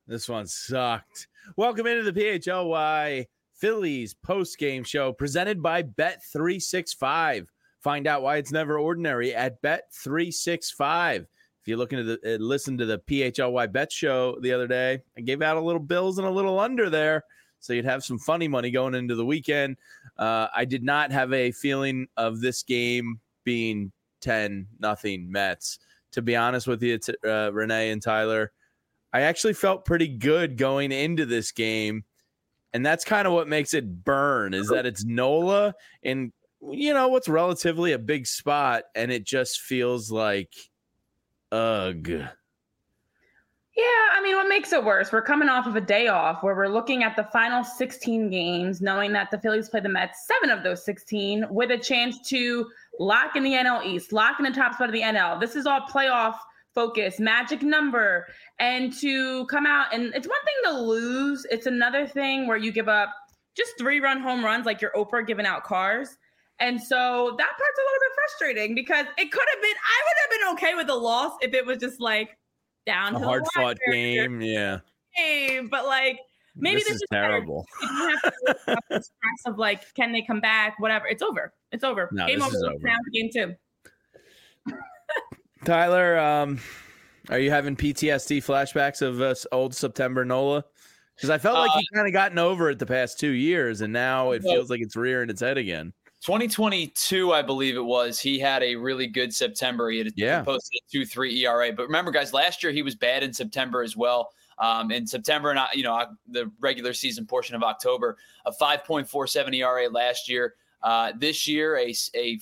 This one sucked. Welcome into the PHLY Phillies post-game show presented by Bet365. Find out why it's never ordinary at Bet365. If you're looking to listen to the PHLY Bet show the other day, I gave out a little bills and a little under there, so you'd have some funny money going into the weekend. I did not have a feeling of this game being 10-0 Mets. To be honest with you, Renee and Tyler, I actually felt pretty good going into this game, and that's kind of what makes it burn, is that it's Nola in, what's relatively a big spot, and it just feels like, ugh. Yeah, I mean, what makes it worse? We're coming off of a day off where we're looking at the final 16 games, knowing that the Phillies play the Mets 7 of those 16 with a chance to lock in the NL East, lock in the top spot of the NL. This is all playoff focus, magic number, and to come out, and it's one thing to lose. It's another thing where you give up just 3-run home runs like your Oprah giving out cars. And so that part's a little bit frustrating because it could have been, I would have been okay with the loss if it was just like down to a hard-fought game, yeah. But like, maybe this is terrible. You have to have the stress of like, can they come back? Whatever. It's over. It's over. No, game this over. is over. Down to game 2. Tyler, are you having PTSD flashbacks of old September Nola? Because I felt like you kind of gotten over it the past 2 years, and now it feels like it's rearing its head again. 2022, I believe it was, he had a really good September. He had posted a 2.3 ERA. But remember, guys, last year he was bad in September as well. In September and the regular season portion of October, a 5.47 ERA last year. This year, a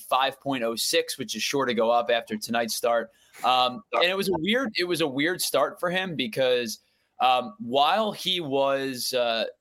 5.06, which is sure to go up after tonight's start. And it was a weird start for him because while he was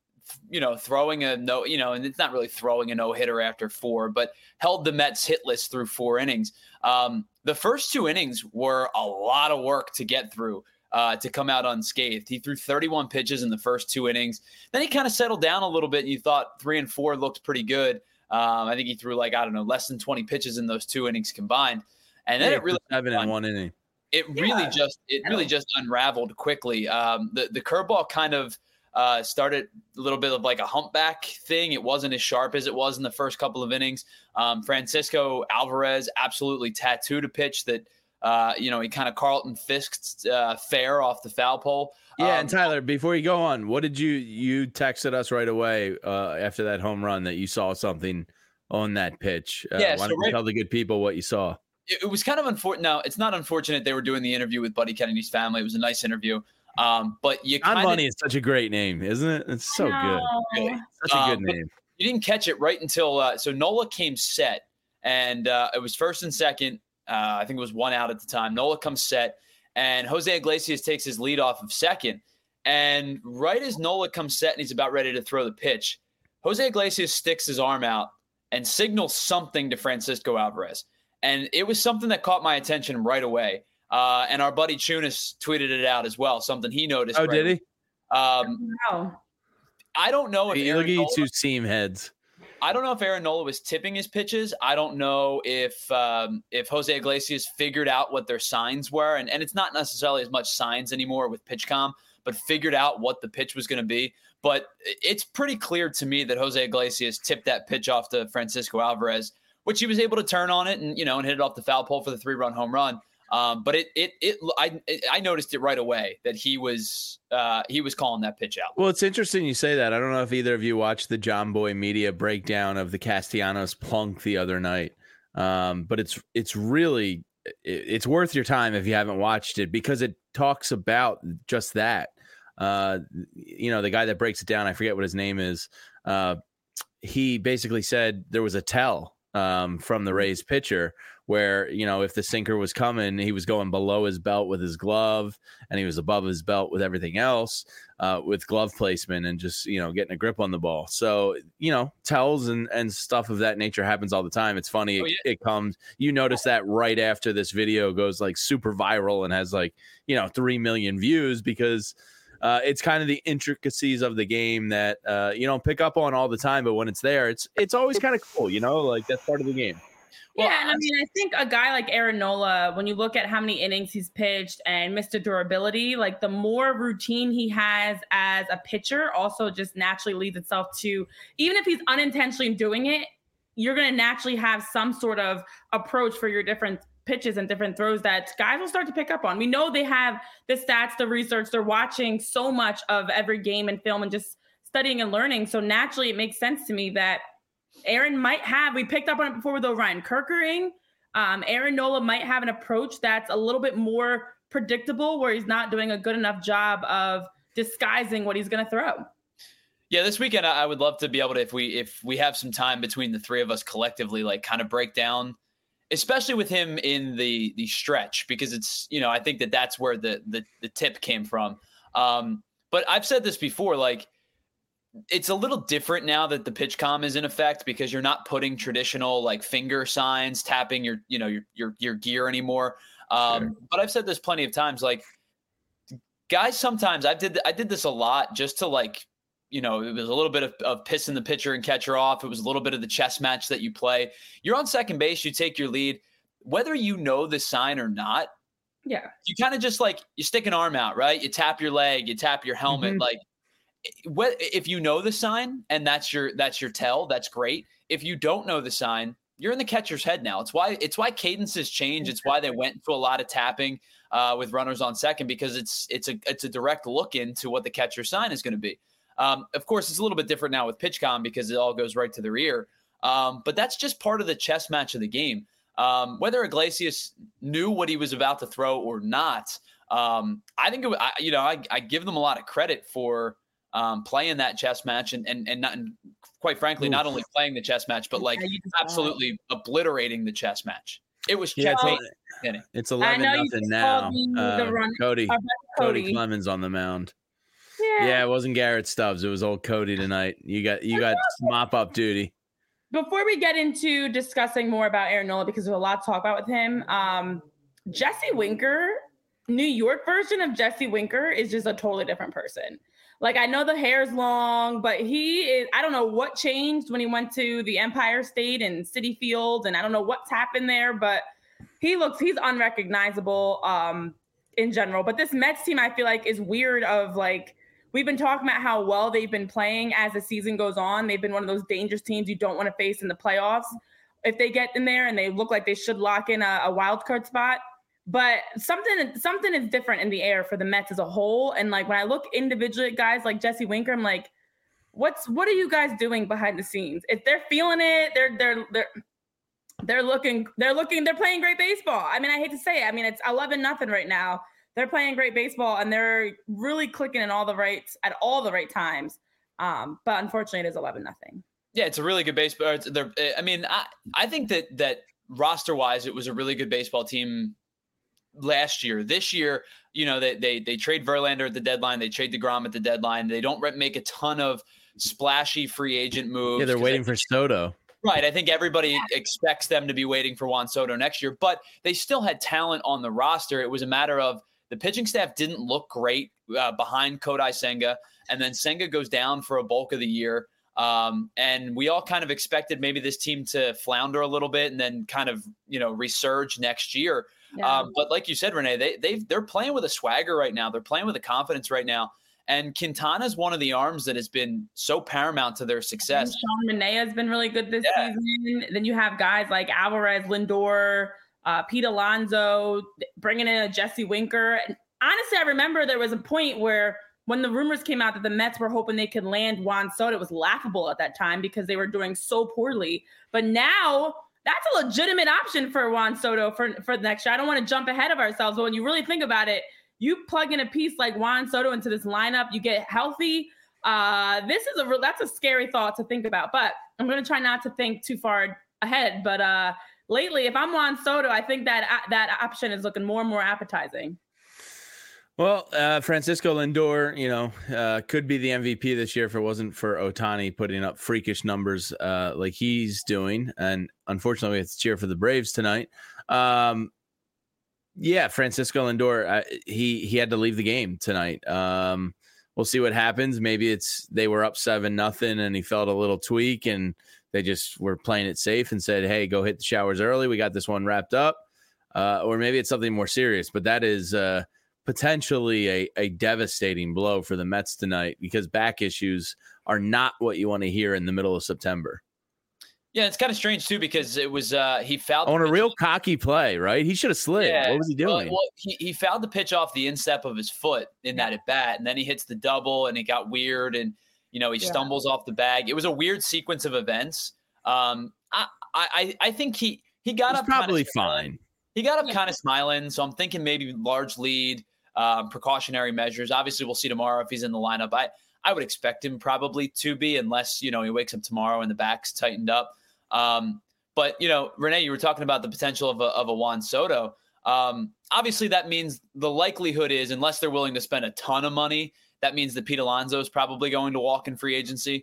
throwing a no, and it's not really throwing a no-hitter after 4, but held the Mets hitless through 4 innings. The first 2 innings were a lot of work to get through. To come out unscathed. He threw 31 pitches in the first 2 innings. Then he kind of settled down a little bit, and you thought 3 and 4 looked pretty good. I think he threw less than 20 pitches in those 2 innings combined. And then it really 7 in 1 inning. It really just unraveled quickly. The curveball kind of started a little bit of like a humpback thing. It wasn't as sharp as it was in the first couple of innings. Francisco Alvarez absolutely tattooed a pitch that he kind of Carlton Fisked fair off the foul pole. Yeah, and Tyler, before you go on, what did you texted us right away after that home run that you saw something on that pitch? Why don't you tell the good people what you saw? It was kind of unfortunate. No, it's not unfortunate they were doing the interview with Buddy Kennedy's family. It was a nice interview. But you John Bunny is such a great name, isn't it? It's so good. Really. Such a good name. You didn't catch it right until so Nola came set, and it was first and second. I think it was 1 out at the time. Nola comes set, and Jose Iglesias takes his lead off of second. And right as Nola comes set and he's about ready to throw the pitch, Jose Iglesias sticks his arm out and signals something to Francisco Alvarez. And it was something that caught my attention right away. And our buddy Chunas tweeted it out as well, something he noticed. Oh, did he? No. I don't know if look at you two seam heads. I don't know if Aaron Nola was tipping his pitches. I don't know if Jose Iglesias figured out what their signs were. And it's not necessarily as much signs anymore with PitchCom, but figured out what the pitch was going to be. But it's pretty clear to me that Jose Iglesias tipped that pitch off to Francisco Alvarez, which he was able to turn on it and hit it off the foul pole for the 3-run home run. But I noticed it right away that he was calling that pitch out. Well, it's interesting you say that. I don't know if either of you watched the John Boy Media breakdown of the Castellanos plunk the other night, but it's really worth your time if you haven't watched it because it talks about just that. The guy that breaks it down, I forget what his name is. He basically said there was a tell from the Rays pitcher where, if the sinker was coming, he was going below his belt with his glove and he was above his belt with everything else with glove placement and just, getting a grip on the ball. So, tells and stuff of that nature happens all the time. It's funny. It comes, notice that right after this video goes like super viral and has 3 million views because it's kind of the intricacies of the game that you don't pick up on all the time. But when it's there, it's always kind of cool, like that's part of the game. Well, yeah, and I mean, I think a guy like Aaron Nola, when you look at how many innings he's pitched and Mr. Durability, like the more routine he has as a pitcher also just naturally leads itself to, even if he's unintentionally doing it, you're going to naturally have some sort of approach for your different pitches and different throws that guys will start to pick up on. We know they have the stats, the research, they're watching so much of every game and film and just studying and learning. So naturally, it makes sense to me that Aaron might have, we picked up on it before with Ryan Kerkering. Aaron Nola might have an approach that's a little bit more predictable where he's not doing a good enough job of disguising what he's going to throw. Yeah, this weekend I would love to be able to, if we have some time between the three of us collectively, like kind of break down, especially with him in the stretch, because it's, you know, I think that's where the tip came from. But I've said this before, like, it's a little different now that the pitch comm is in effect because you're not putting traditional like finger signs, tapping your gear anymore. Sure. But I've said this plenty of times, like guys, sometimes I did this a lot just to like, you know, it was a little bit of pissing the pitcher and catcher off. It was a little bit of the chess match that you play. You're on second base, you take your lead, whether you know the sign or not. Yeah. You kind of just like, you stick an arm out, right? You tap your leg, you tap your helmet, mm-hmm. Like, if you know the sign and that's your tell, that's great. If you don't know the sign, you're in the catcher's head now. It's why cadences change. It's why they went to a lot of tapping with runners on second, because it's a direct look into what the catcher's sign is going to be. Of course, it's a little bit different now with PitchCom because it all goes right to their ear. But that's just part of the chess match of the game. Whether Iglesias knew what he was about to throw or not, I think I give them a lot of credit for playing that chess match and not, and quite frankly, not only playing the chess match, but like absolutely obliterating the chess match. It was checkmate. It's 11-0 now. Cody Clemens on the mound. Yeah, it wasn't Garrett Stubbs. It was old Cody tonight. You got mop up duty. Before we get into discussing more about Aaron Nola, because there's a lot to talk about with him, Jesse Winker, New York version of Jesse Winker is just a totally different person. Like, I know the hair's long, but I don't know what changed when he went to the Empire State and Citi Field, and I don't know what's happened there, but he's unrecognizable in general. But this Mets team, I feel like, is weird of, like, we've been talking about how well they've been playing as the season goes on. They've been one of those dangerous teams you don't want to face in the playoffs if they get in there and they look like they should lock in a wild card spot. But something is different in the air for the Mets as a whole. And like when I look individually at guys like Jesse Winker, I'm like, what are you guys doing behind the scenes? If they're feeling it, they're playing great baseball. I mean, I hate to say it. I mean, it's 11-0 right now. They're playing great baseball and they're really clicking at all the right times. But unfortunately, it is 11-0. Yeah, it's a really good baseball. I mean, I think that roster wise, it was a really good baseball team last year. This year, you know, they trade Verlander at the deadline. They trade DeGrom at the deadline. They don't make a ton of splashy free agent moves. Yeah, they're waiting for Soto. Right. I think everybody expects them to be waiting for Juan Soto next year, but they still had talent on the roster. It was a matter of the pitching staff didn't look great behind Kodai Senga, and then Senga goes down for a bulk of the year. And we all kind of expected maybe this team to flounder a little bit and then kind of, you know, resurge next year. Yeah. But like you said, Renee, they're playing with a swagger right now. They're playing with a confidence right now. And Quintana is one of the arms that has been so paramount to their success. Sean Manaea has been really good this season. Then you have guys like Alvarez, Lindor, Pete Alonso, bringing in a Jesse Winker. And honestly, I remember there was a point where when the rumors came out that the Mets were hoping they could land Juan Soto, it was laughable at that time because they were doing so poorly. But now that's a legitimate option for Juan Soto for the next year. I don't want to jump ahead of ourselves, but when you really think about it, you plug in a piece like Juan Soto into this lineup, you get healthy. That's a scary thought to think about, but I'm going to try not to think too far ahead. But lately, if I'm Juan Soto, I think that option is looking more and more appetizing. Well, Francisco Lindor, you know, could be the MVP this year if it wasn't for Ohtani putting up freakish numbers like he's doing. And unfortunately, we have to cheer for the Braves tonight. Yeah, Francisco Lindor, he had to leave the game tonight. We'll see what happens. Maybe they were up 7-0 and he felt a little tweak and they just were playing it safe and said, hey, go hit the showers early. We got this one wrapped up. Or maybe it's something more serious, but that is potentially a devastating blow for the Mets tonight, because back issues are not what you want to hear in the middle of September. Yeah, it's kind of strange too, because it was he fouled on a real cocky play, right? He should have slid. Yeah, what was he doing? Well, he fouled the pitch off the instep of his foot in that at bat, and then he hits the double, and it got weird, and he stumbles off the bag. It was a weird sequence of events. I think he got up probably fine. He got up kind of smiling, so I'm thinking maybe large lead, precautionary measures. Obviously, we'll see tomorrow if he's in the lineup. I would expect him probably to be, unless he wakes up tomorrow and the back's tightened up. But Renee, you were talking about the potential of a Juan Soto. Obviously, that means the likelihood is, unless they're willing to spend a ton of money, that means that Pete Alonso is probably going to walk in free agency.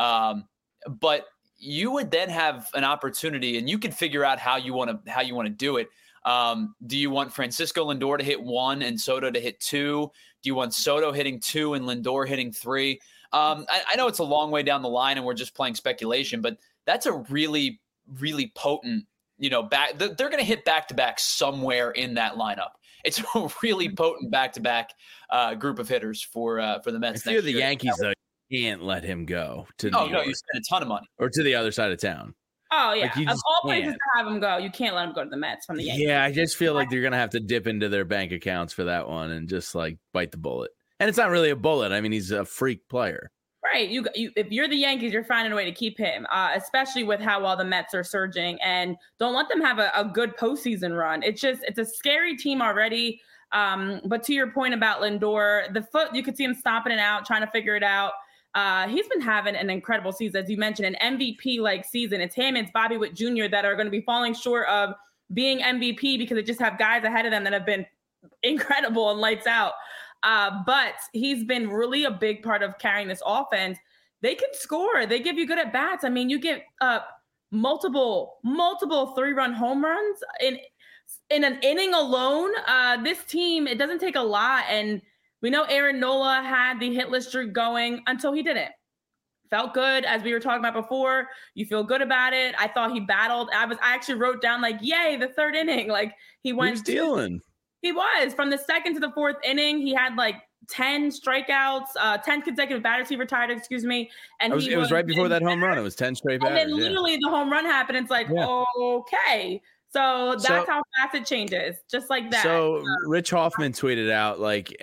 But you would then have an opportunity, and you can figure out how you want to do it. Do you want Francisco Lindor to hit 1 and Soto to hit 2? Do you want Soto hitting 2 and Lindor hitting 3? I know it's a long way down the line and we're just playing speculation, but that's a really, really potent, back. They're going to hit back-to-back somewhere in that lineup. It's a really potent back-to-back group of hitters for the Mets. If you're the Yankees, though, you can't let him go to New York. No, you spend a ton of money. Or to the other side of town. Oh, yeah. Of all places to have him go, you can't let him go to the Mets from the Yankees. Yeah, I just feel like you're going to have to dip into their bank accounts for that one and just, bite the bullet. And it's not really a bullet. I mean, he's a freak player. Right. You if you're the Yankees, you're finding a way to keep him, especially with how well the Mets are surging. And don't let them have a good postseason run. It's a scary team already. But to your point about Lindor, the foot, you could see him stomping it out, trying to figure it out. He's been having an incredible season, as you mentioned, an MVP-like season. It's him, it's Bobby Witt Jr. that are going to be falling short of being MVP because they just have guys ahead of them that have been incredible and lights out. But he's been really a big part of carrying this offense. They can score. They give you good at bats. I mean, you get multiple 3-run home runs in an inning alone. This team, it doesn't take a lot, and we know Aaron Nola had the hitless streak going until he didn't. Felt good, as we were talking about before. You feel good about it. I thought he battled. I actually wrote down yay, the third inning. He went. He was dealing. He was. From the second to the fourth inning, he had 10 strikeouts, 10 consecutive batters he retired, And it was right before that home run. It was 10 straight batters. And then literally the home run happened. It's okay. So that's how fast it changes, just like that. So Rich Hoffman tweeted out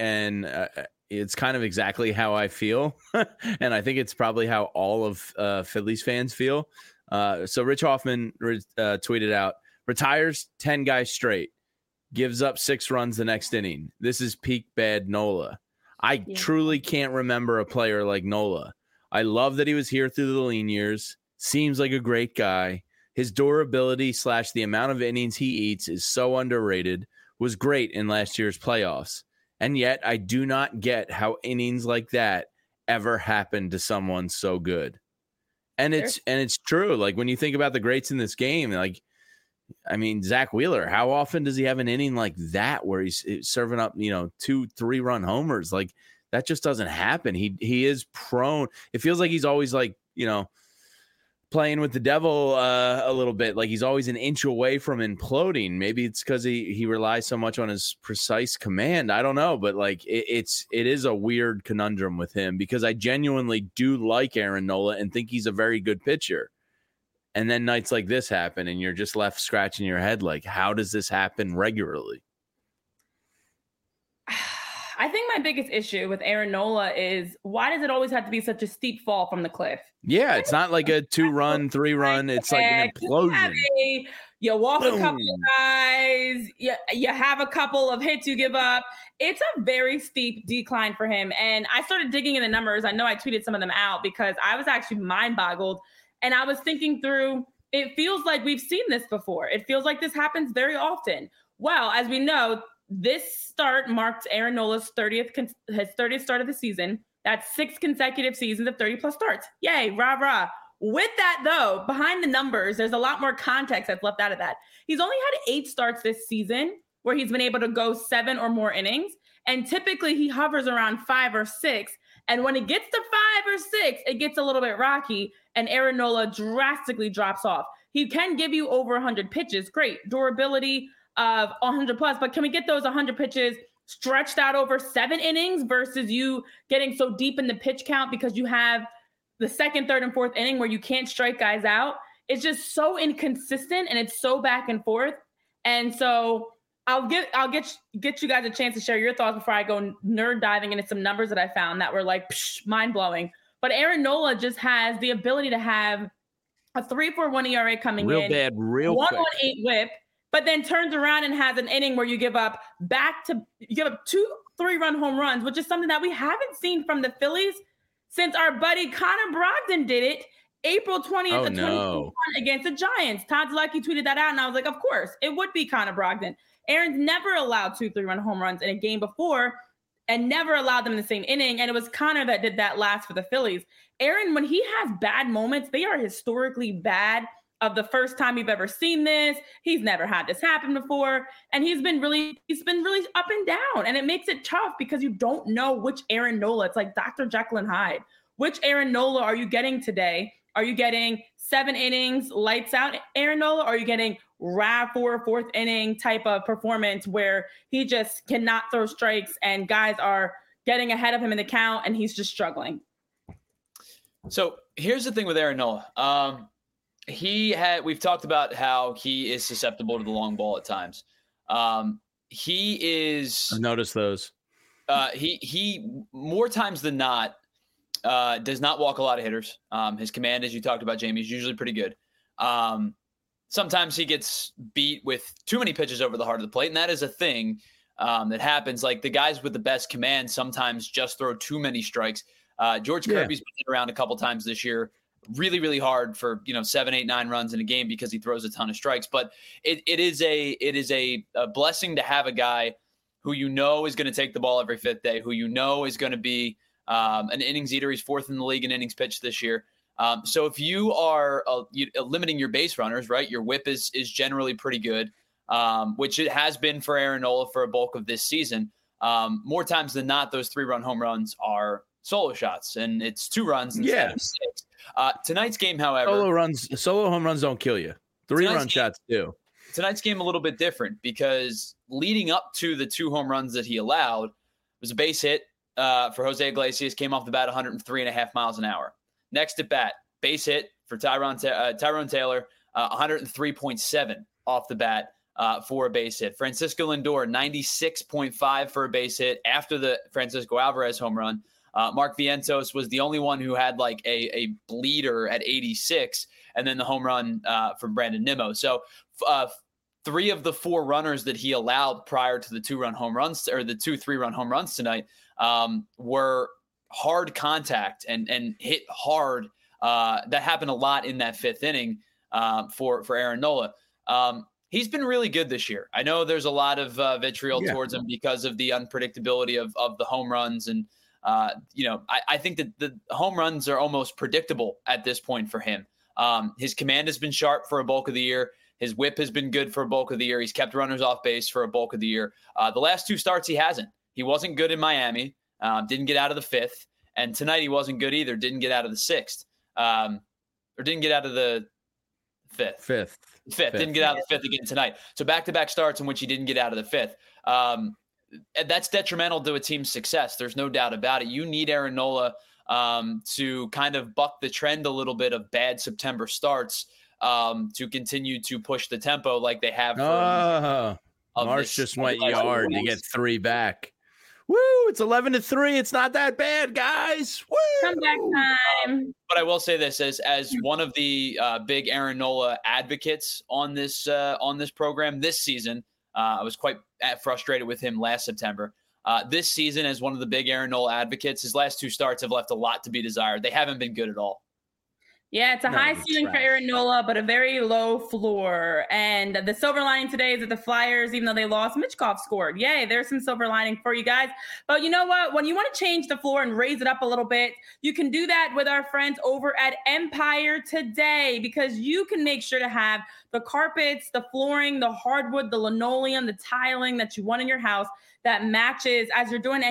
it's kind of exactly how I feel. And I think it's probably how all of Phillies fans feel. So Rich Hoffman tweeted out, retires 10 guys straight, gives up 6 runs the next inning. This is peak bad Nola. I truly can't remember a player like Nola. I love that he was here through the lean years. Seems like a great guy. His durability / the amount of innings he eats is so underrated, was great in last year's playoffs. And yet I do not get how innings like that ever happened to someone so good. And it's true. When you think about the greats in this game, Zach Wheeler, how often does he have an inning like that where he's serving up, 2-3 run homers? That just doesn't happen. He is prone. It feels like he's always playing with the devil a little bit. He's always an inch away from imploding. Maybe it's because he relies so much on his precise command. I don't know, but it is a weird conundrum with him, because I genuinely do like Aaron Nola and think he's a very good pitcher. And then nights like this happen and you're just left scratching your head. How does this happen regularly? I think my biggest issue with Aaron Nola is, why does it always have to be such a steep fall from the cliff? Yeah, it's not like a 2-run, 3-run. It's like an implosion. You walk a couple of guys. You have a couple of hits you give up. It's a very steep decline for him. And I started digging in the numbers. I know I tweeted some of them out because I was actually mind-boggled. And I was thinking through, it feels like we've seen this before. It feels like this happens very often. Well, as we know, this start marked Aaron Nola's 30th start of the season. That's 6 consecutive seasons of 30-plus starts. Yay, rah, rah. With that, though, behind the numbers, there's a lot more context that's left out of that. He's only had 8 starts this season where he's been able to go 7 or more innings. And typically he hovers around 5 or 6. And when it gets to 5 or 6, it gets a little bit rocky. and Aaron Nola drastically drops off. He can give you over 100 pitches. Great. Durability of 100 plus, but can we get those 100 pitches stretched out over 7 innings versus you getting so deep in the pitch count because you have the second, third, and fourth inning where you can't strike guys out? It's just so inconsistent and it's so back and forth. And so I'll get you guys a chance to share your thoughts before I go nerd diving into some numbers that I found that were like mind blowing. But Aaron Nola just has the ability to have a 3.41 ERA coming real in, bad, real 1.18 WHIP, but then turns around and has an inning where you give up 2 3-run home runs, which is something that we haven't seen from the Phillies since our buddy Connor Brogdon did it April 20th of 2021 against the Giants. Todd Zaleski tweeted that out, and I was like, of course, it would be Connor Brogdon. Aaron's never allowed 2 3-run home runs in a game before and never allowed them in the same inning, and it was Connor that did that last for the Phillies. Aaron, when he has bad moments, they are historically bad. Of the first time you've ever seen this, he's never had this happen before, and he's been really up and down, and it makes it tough because you don't know which Aaron Nola. It's like Dr. Jekyll and Hyde. Which Aaron Nola are you getting today? Are you getting 7 innings, lights out Aaron Nola? Or are you getting fourth inning type of performance where he just cannot throw strikes and guys are getting ahead of him in the count and he's just struggling? So here's the thing with Aaron Nola. We've talked about how he is susceptible to the long ball at times. I've noticed those. He more times than not does not walk a lot of hitters. His command, as you talked about, Jamie, is usually pretty good. Sometimes he gets beat with too many pitches over the heart of the plate, and that is a thing that happens. Like the guys with the best command sometimes just throw too many strikes. George Kirby's been around a couple times this year, really, really hard for 7, 8, 9 runs in a game because he throws a ton of strikes. But it is a blessing to have a guy who is going to take the ball every 5th day, who is going to be an innings eater. He's 4th in the league in innings pitched this year. So if you are limiting your base runners, right, your whip is generally pretty good, which it has been for Aaron Nola for a bulk of this season. More times than not, those 3-run home runs are solo shots, and it's 2 runs instead of 6. Tonight's game, however, solo home runs don't kill you. 3-run shots do. Tonight's game a little bit different because leading up to the 2 home runs that he allowed was a base hit for Jose Iglesias, came off the bat 103.5 miles an hour. Next at bat, base hit for Tyrone Taylor, 103.7 off the bat for a base hit. Francisco Lindor, 96.5 for a base hit after the Francisco Alvarez home run. Mark Vientos was the only one who had like a bleeder at 86, and then the home run from Brandon Nimmo. So 3 of the 4 runners that he allowed prior to the 2-run home runs, or the 2 3-run home runs tonight, were hard contact and hit hard. That happened a lot in that 5th inning for Aaron Nola. He's been really good this year. I know there's a lot of vitriol towards him because of the unpredictability of the home runs. And, I think that the home runs are almost predictable at this point for him. His command has been sharp for a bulk of the year. His whip has been good for a bulk of the year. He's kept runners off base for a bulk of the year. The last 2 starts, he hasn't. He wasn't good in Miami, didn't get out of the 5th. And tonight he wasn't good either, didn't get out of the 6th. Or didn't get out of the 5th. Fifth. Didn't get out of the 5th again tonight. So back-to-back starts in which he didn't get out of the 5th. That's detrimental to a team's success. There's no doubt about it. You need Aaron Nola to kind of buck the trend a little bit of bad September starts to continue to push the tempo like they have. Marsh just went yard to get 3 back. Woo! It's 11-3. It's not that bad, guys. Woo! Comeback time. But I will say this as one of the big Aaron Nola advocates on this program this season. I was quite frustrated with him last September. This season, as one of the big Aaron Nola advocates, his last 2 starts have left a lot to be desired. They haven't been good at all. Yeah, it's a high ceiling for Aaron Nola, but a very low floor. And the silver lining today is that the Flyers, even though they lost, Michkov scored. Yay, there's some silver lining for you guys. But you know what? When you want to change the floor and raise it up a little bit, you can do that with our friends over at Empire Today, because you can make sure to have the carpets, the flooring, the hardwood, the linoleum, the tiling that you want in your house that matches as you're doing any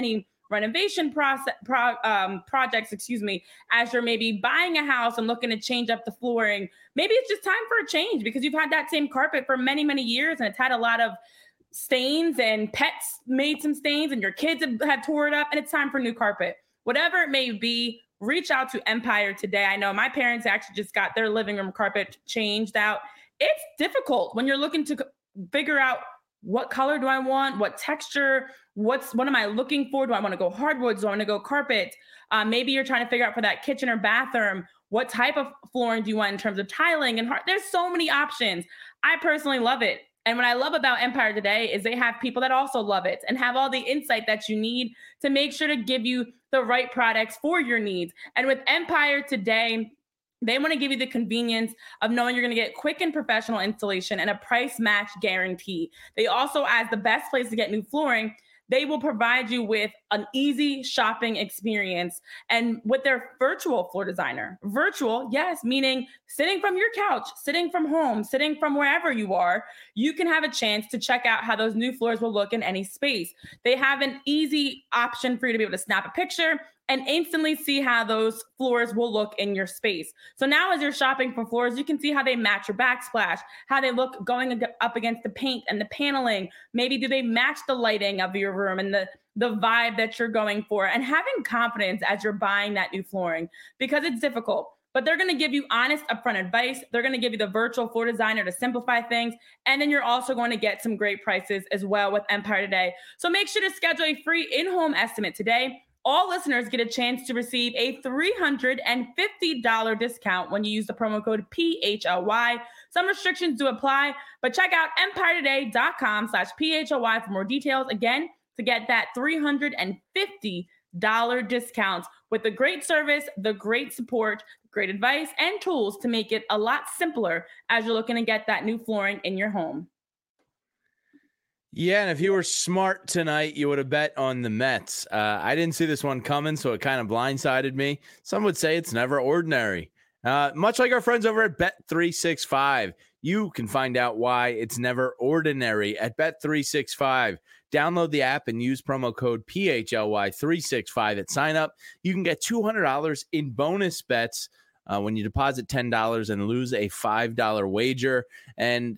renovation projects, as you're maybe buying a house and looking to change up the flooring. Maybe it's just time for a change because you've had that same carpet for many, many years and it's had a lot of stains and pets made some stains and your kids have tore it up and it's time for new carpet. Whatever it may be, reach out to Empire today. I know my parents actually just got their living room carpet changed out. It's difficult when you're looking to figure out what color do I want, what texture, what am I looking for? Do I want to go hardwoods? Do I want to go carpet? Maybe you're trying to figure out for that kitchen or bathroom, what type of flooring do you want in terms of tiling and there's so many options. I personally love it. And what I love about Empire today is they have people that also love it and have all the insight that you need to make sure to give you the right products for your needs. And with Empire today, they want to give you the convenience of knowing you're going to get quick and professional installation and a price match guarantee. They also, as the best place to get new flooring, they will provide you with an easy shopping experience. And with their virtual floor designer, virtual, yes, meaning sitting from your couch, sitting from home, sitting from wherever you are, you can have a chance to check out how those new floors will look in any space. They have an easy option for you to be able to snap a picture and instantly see how those floors will look in your space. So now as you're shopping for floors, you can see how they match your backsplash, how they look going up against the paint and the paneling. Maybe do they match the lighting of your room and the vibe that you're going for, and having confidence as you're buying that new flooring, because it's difficult. But they're going to give you honest upfront advice. They're going to give you the virtual floor designer to simplify things. And then you're also going to get some great prices as well with Empire today. So make sure to schedule a free in-home estimate today. All listeners get a chance to receive a $350 discount when you use the promo code PHLY. Some restrictions do apply, but check out empiretoday.com/PHLY for more details. Again, to get that $350 discount with the great service, the great support, great advice, and tools to make it a lot simpler as you're looking to get that new flooring in your home. Yeah, and if you were smart tonight, you would have bet on the Mets. I didn't see this one coming, so it kind of blindsided me. Some would say it's never ordinary. Much like our friends over at Bet365, you can find out why it's never ordinary at Bet365. Download the app and use promo code PHLY365 at sign up. You can get $200 in bonus bets when you deposit $10 and lose a $5 wager. And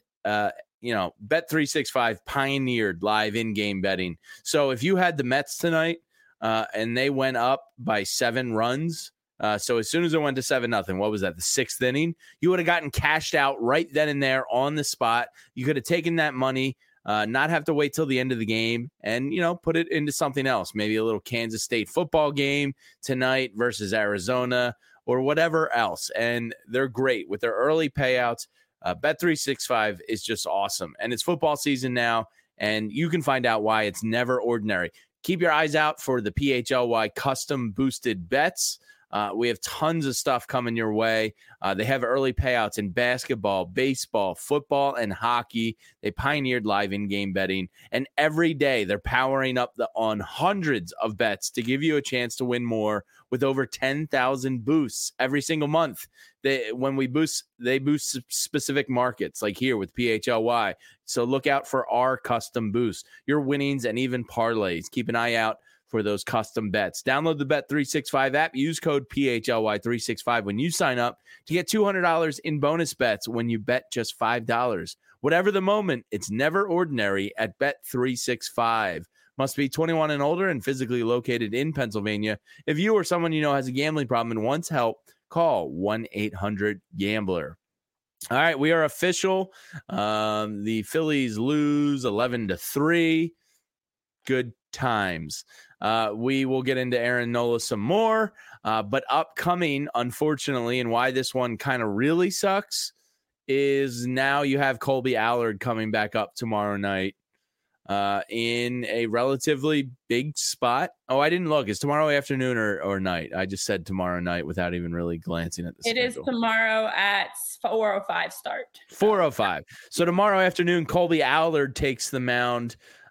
Bet365 pioneered live in-game betting. So if you had the Mets tonight and they went up by 7 runs, so as soon as it went to 7-0, what was that, the 6th inning? You would have gotten cashed out right then and there on the spot. You could have taken that money, not have to wait till the end of the game, and, put it into something else. Maybe a little Kansas State football game tonight versus Arizona or whatever else. And they're great with their early payouts. Bet365 is just awesome. And it's football season now, and you can find out why it's never ordinary. Keep your eyes out for the PHLY custom boosted bets. We have tons of stuff coming your way. They have early payouts in basketball, baseball, football, and hockey. They pioneered live in-game betting, and every day they're powering up on hundreds of bets to give you a chance to win more with over 10,000 boosts every single month. They boost specific markets, like here with PHLY. So look out for our custom boosts, your winnings, and even parlays. Keep an eye out for those custom bets. Download the Bet365 app. Use code PHLY365 when you sign up to get $200 in bonus bets when you bet just $5. Whatever the moment, it's never ordinary at Bet365. Must be 21 and older and physically located in Pennsylvania. If you or someone you know has a gambling problem and wants help, call 1-800-GAMBLER. All right, we are official. The Phillies lose 11-3. Good times. We will get into Aaron Nola some more, but upcoming, unfortunately, and why this one kind of really sucks is now you have Colby Allard coming back up tomorrow night in a relatively big spot. Oh, I didn't look. Is tomorrow afternoon or night? I just said tomorrow night without even really glancing at the schedule. It is tomorrow at 4:05 start. 4:05. So tomorrow afternoon, Colby Allard takes the mound.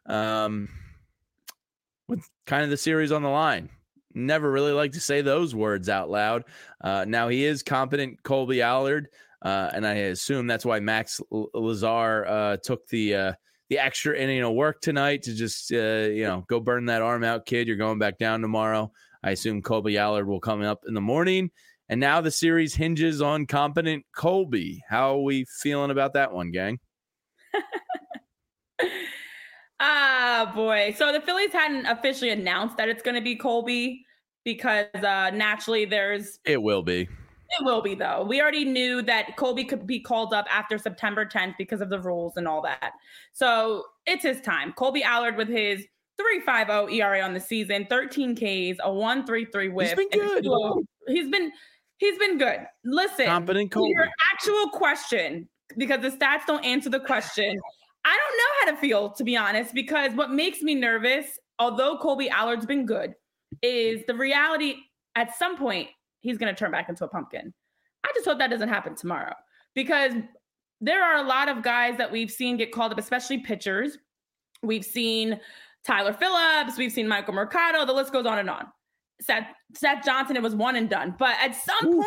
With kind of the series on the line. Never really like to say those words out loud. Now he is competent, Colby Allard, and I assume that's why Max Lazar took the the extra inning of work tonight to just go burn that arm out, kid. You're going back down tomorrow. I assume Kolby Allard will come up in the morning. And now the series hinges on competent Kolby. How are we feeling about that one, gang? Boy. So the Phillies hadn't officially announced that it's going to be Kolby because naturally It will be. It will be, though. We already knew that Kolby could be called up after September 10th because of the rules and all that. So it's his time. Kolby Allard with his 3.50 ERA on the season, 13 Ks, a 1.33 whip. He's been good. He's been good. Listen, competent Kolby. Your actual question, because the stats don't answer the question. I don't know how to feel, to be honest, because what makes me nervous, although Kolby Allard's been good, is the reality at some point he's going to turn back into a pumpkin. I just hope that doesn't happen tomorrow, because there are a lot of guys that we've seen get called up, especially pitchers. We've seen Tyler Phillips. We've seen Michael Mercado. The list goes on and on. Seth Johnson, it was one and done. But at some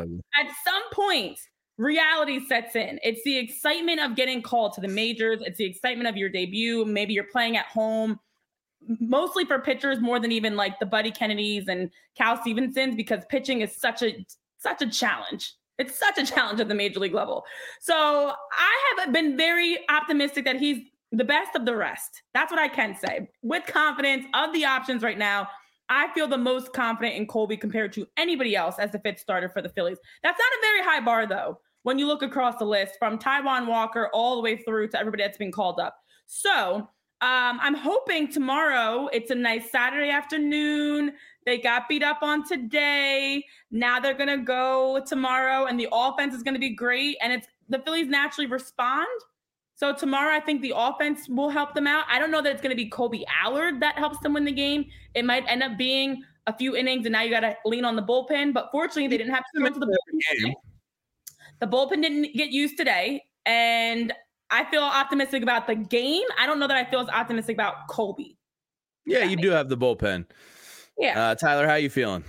point, reality sets in. It's the excitement of getting called to the majors. It's the excitement of your debut. Maybe you're playing at home, mostly for pitchers more than even like the Buddy Kennedys and Cal Stevensons, because pitching is such a challenge. It's such a challenge at the major league level. So I have been very optimistic that he's the best of the rest. That's what I can say. With confidence of the options right now, I feel the most confident in Kolby compared to anybody else as the fifth starter for the Phillies. That's not a very high bar, though, when you look across the list from Taijuan Walker all the way through to everybody that's been called up. So I'm hoping tomorrow it's a nice Saturday afternoon. They got beat up on today. Now they're going to go tomorrow, and the offense is going to be great. And the Phillies naturally respond. So tomorrow, I think the offense will help them out. I don't know that it's going to be Kolby Allard that helps them win the game. It might end up being a few innings, and now you got to lean on the bullpen. But fortunately, they didn't have to come into the bullpen. The bullpen didn't get used today, and I feel optimistic about the game. I don't know that I feel as optimistic about Kolby. Yeah, you do have the bullpen. Yeah. Tyler, how you feeling?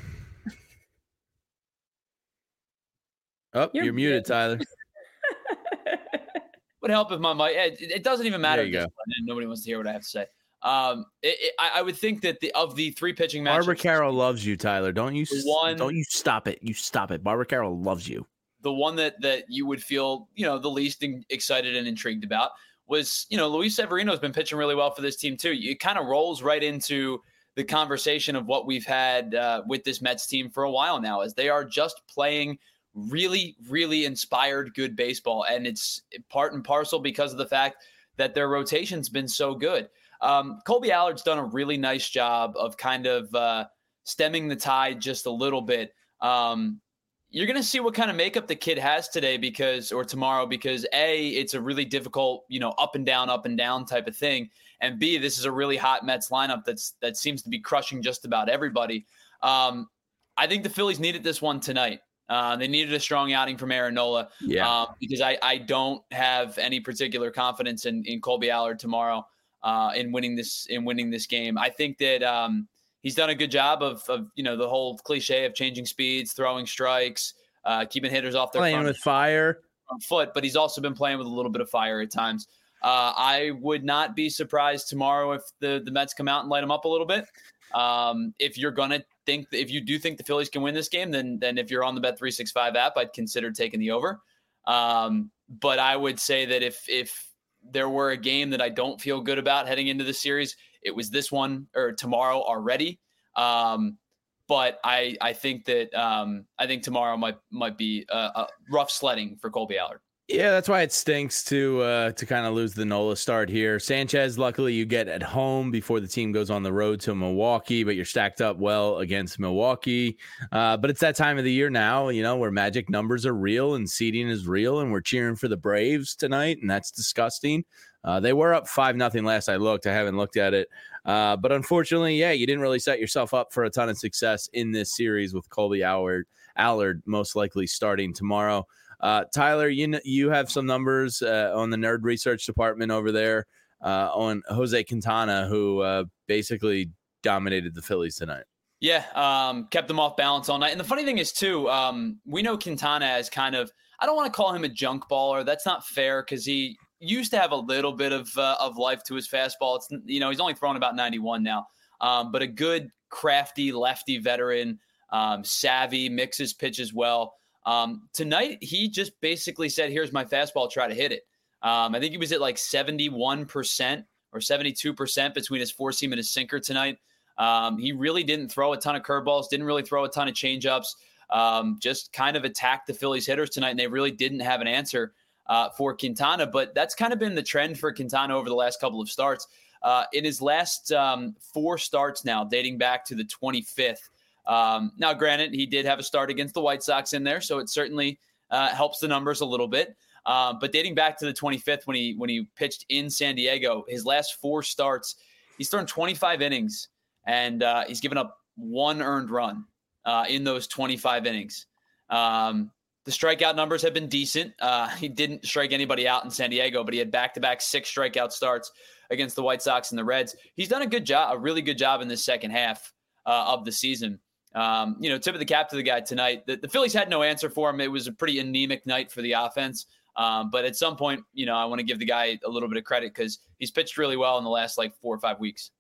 Oh, you're muted, Tyler. Would help if my mic. It doesn't even matter. There you go. Nobody wants to hear what I have to say. I would think that of the three pitching matchups, Barbara Carroll loves you, Tyler. Don't you stop it. You stop it. Barbara Carroll loves you. The one that you would feel, the least excited and intrigued about was, Luis Severino has been pitching really well for this team too. It kind of rolls right into the conversation of what we've had with this Mets team for a while now, as they are just playing really, really inspired good baseball. And it's part and parcel because of the fact that their rotation's been so good. Kolby Allard's done a really nice job of kind of stemming the tide just a little bit. You're going to see what kind of makeup the kid has tomorrow, because A, it's a really difficult, up and down type of thing. And B, this is a really hot Mets lineup that seems to be crushing just about everybody. I think the Phillies needed this one tonight. They needed a strong outing from Aaron Nola, because I don't have any particular confidence in Kolby Allard tomorrow in winning this game. I think that he's done a good job of the whole cliche of changing speeds, throwing strikes, keeping hitters off their playing with fire on foot, but he's also been playing with a little bit of fire at times. I would not be surprised tomorrow if the Mets come out and light him up a little bit. If you do think the Phillies can win this game, then if you're on the Bet365 app, I'd consider taking the over. But I would say that if there were a game that I don't feel good about heading into the series, it was this one, or tomorrow already. But I think tomorrow might be a rough sledding for Kolby Allard. Yeah, that's why it stinks to kind of lose the Nola start here. Sanchez, luckily you get at home before the team goes on the road to Milwaukee, but you're stacked up well against Milwaukee. But it's that time of the year now, where magic numbers are real and seeding is real, and we're cheering for the Braves tonight, and that's disgusting. They were up 5-0 last I looked. I haven't looked at it. But unfortunately, you didn't really set yourself up for a ton of success in this series with Kolby Allard most likely starting tomorrow. Tyler, you have some numbers on the Nerd Research Department over there on Jose Quintana, who basically dominated the Phillies tonight. Yeah, kept them off balance all night. And the funny thing is, too, we know Quintana as kind of, I don't want to call him a junk baller. That's not fair, because he used to have a little bit of life to his fastball. It's, he's only thrown about 91 now, but a good crafty lefty veteran, savvy, mixes pitch as well. Tonight, he just basically said, here's my fastball, try to hit it. I think he was at like 71% or 72% between his four seam and his sinker tonight. He really didn't throw a ton of curveballs, didn't really throw a ton of changeups, just kind of attacked the Phillies hitters tonight, and they really didn't have an answer for Quintana. But that's kind of been the trend for Quintana over the last couple of starts. In his last 4 starts now, dating back to the 25th. Now, granted, he did have a start against the White Sox in there, so it certainly helps the numbers a little bit. But dating back to the 25th, when he pitched in San Diego, his last 4 starts, he's thrown 25 innings, and he's given up 1 earned run in those 25 innings. The strikeout numbers have been decent. He didn't strike anybody out in San Diego, but he had back-to-back 6 strikeout starts against the White Sox and the Reds. He's done a really good job in this second half of the season. Tip of the cap to the guy tonight. The Phillies had no answer for him. It was a pretty anemic night for the offense. But at some point, I want to give the guy a little bit of credit because he's pitched really well in the last 4 or 5 weeks.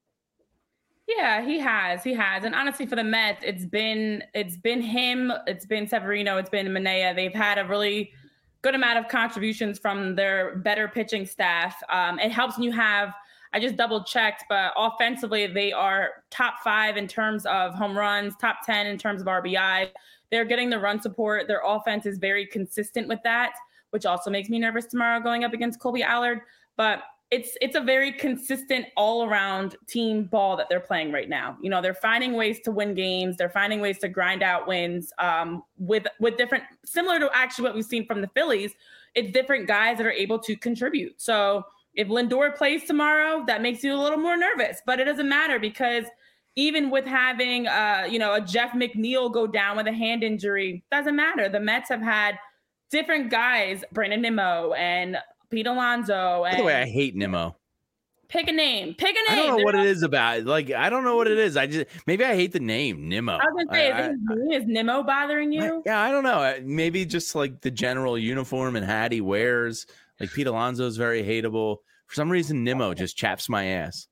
Yeah, he has. And honestly, for the Mets, it's been him, it's been Severino, it's been Manaea. They've had a really good amount of contributions from their better pitching staff. It helps when you have, I just double checked, but offensively, they are top 5 in terms of home runs, top 10 in terms of RBI. They're getting the run support. Their offense is very consistent with that, which also makes me nervous tomorrow going up against Colby Allard. But it's a very consistent all-around team ball that they're playing right now. They're finding ways to win games. They're finding ways to grind out wins with different, similar to actually what we've seen from the Phillies. It's different guys that are able to contribute. So if Lindor plays tomorrow, that makes you a little more nervous. But it doesn't matter because even with having, a Jeff McNeil go down with a hand injury, doesn't matter. The Mets have had different guys, Brandon Nimmo and Pete Alonso. By the way, I hate Nimmo. Pick a name. I don't know what it is about. I don't know what it is. Maybe I hate the name Nimmo. I was going to say, is Nimmo bothering you? Yeah, I don't know. Maybe just the general uniform and hat he wears. Pete Alonso is very hateable. For some reason, Nimmo just chaps my ass.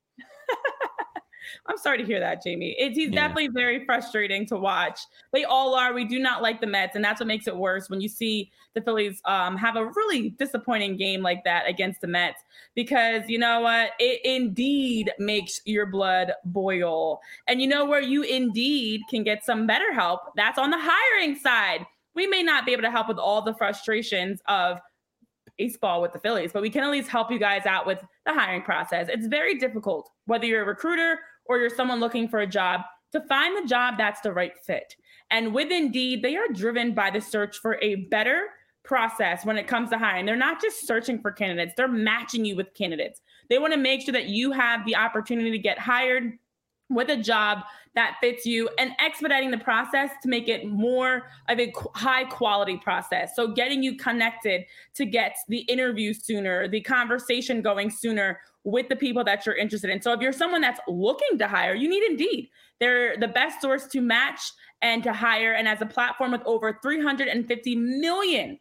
I'm sorry to hear that, Jamie. He's definitely very frustrating to watch. They all are. We do not like the Mets, and that's what makes it worse when you see the Phillies have a really disappointing game like that against the Mets, because you know what? It indeed makes your blood boil. And you know where you indeed can get some better help? That's on the hiring side. We may not be able to help with all the frustrations of baseball with the Phillies, but we can at least help you guys out with the hiring process. It's very difficult, whether you're a recruiter or you're someone looking for a job, to find the job that's the right fit. And with Indeed, they are driven by the search for a better process when it comes to hiring. They're not just searching for candidates, they're matching you with candidates. They want to make sure that you have the opportunity to get hired with a job that fits you, and expediting the process to make it more of a high quality process. So getting you connected to get the interview sooner, the conversation going sooner with the people that you're interested in. So if you're someone that's looking to hire, you need Indeed. They're the best source to match and to hire. And as a platform with over 350 million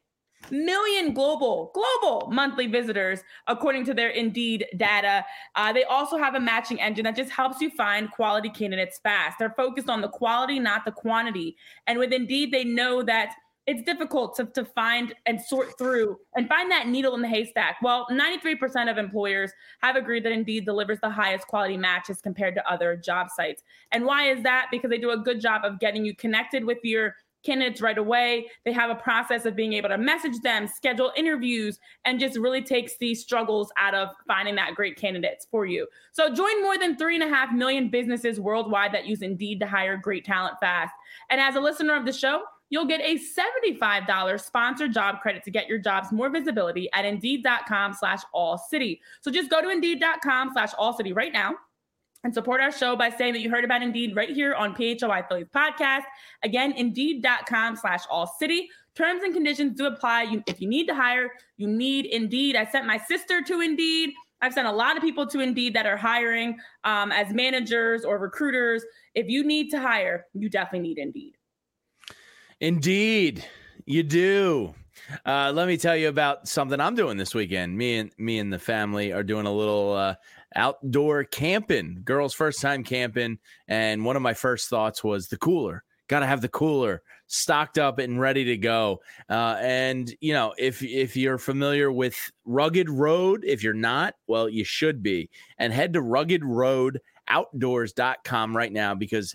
global monthly visitors, according to their Indeed data. They also have a matching engine that just helps you find quality candidates fast. They're focused on the quality, not the quantity. And with Indeed, they know that it's difficult to find and sort through and find that needle in the haystack. Well, 93% of employers have agreed that Indeed delivers the highest quality matches compared to other job sites. And why is that? Because they do a good job of getting you connected with your candidates right away. They have a process of being able to message them, schedule interviews, and just really takes the struggles out of finding that great candidates for you. So join more than 3.5 million businesses worldwide that use Indeed to hire great talent fast. And as a listener of the show, you'll get a $75 sponsored job credit to get your jobs more visibility at Indeed.com/allcity. So just go to Indeed.com/allcity right now and support our show by saying that you heard about Indeed right here on PHLY Phillies podcast. Again, Indeed.com/allcity. Terms and conditions do apply. If you need to hire, you need Indeed. I sent my sister to Indeed. I've sent a lot of people to Indeed that are hiring as managers or recruiters. If you need to hire, you definitely need Indeed. Indeed, you do. Let me tell you about something I'm doing this weekend. Me and the family are doing a little outdoor camping. Girls' first time camping, and one of my first thoughts was the cooler. Got to have the cooler stocked up and ready to go. And you know, if you're familiar with Rugged Road, if you're not, well, you should be. And head to ruggedroadoutdoors.com right now, because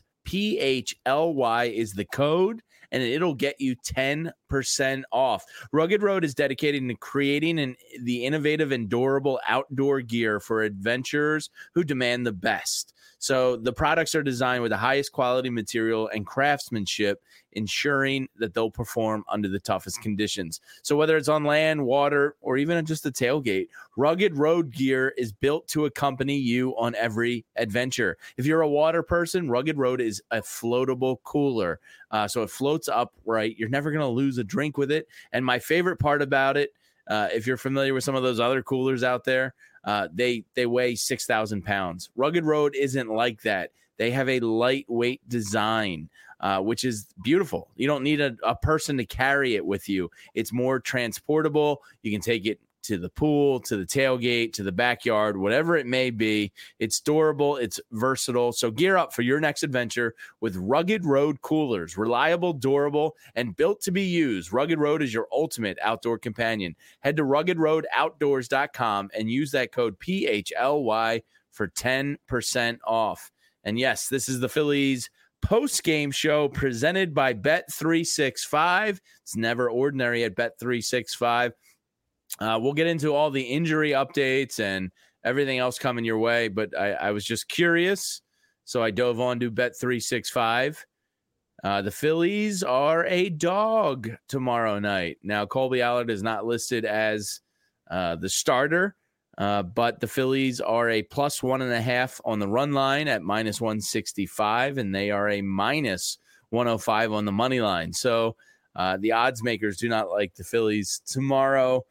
PHLY is the code, and it'll get you 10% off. Rugged Road is dedicated to creating the innovative and durable outdoor gear for adventurers who demand the best. So the products are designed with the highest quality material and craftsmanship, ensuring that they'll perform under the toughest conditions. So whether it's on land, water, or even just a tailgate, Rugged Road gear is built to accompany you on every adventure. If you're a water person, Rugged Road is a floatable cooler. So it floats upright. You're never going to lose a drink with it. And my favorite part about it, if you're familiar with some of those other coolers out there, they weigh 6,000 pounds. Rugged Road isn't like that. They have a lightweight design, which is beautiful. You don't need a person to carry it with you. It's more transportable. You can take it to the pool, to the tailgate, to the backyard, whatever it may be. It's durable. It's versatile. So gear up for your next adventure with Rugged Road coolers. Reliable, durable, and built to be used. Rugged Road is your ultimate outdoor companion. Head to ruggedroadoutdoors.com and use that code PHLY for 10% off. And yes, this is the Phillies post-game show presented by Bet365. It's never ordinary at Bet365. We'll get into all the injury updates and everything else coming your way, but I was just curious, so I dove on to Bet365. The Phillies are a dog tomorrow night. Now, Colby Allard is not listed as the starter, but the Phillies are a plus 1.5 on the run line at minus 165, and they are a minus 105 on the money line. So the odds makers do not like the Phillies tomorrow.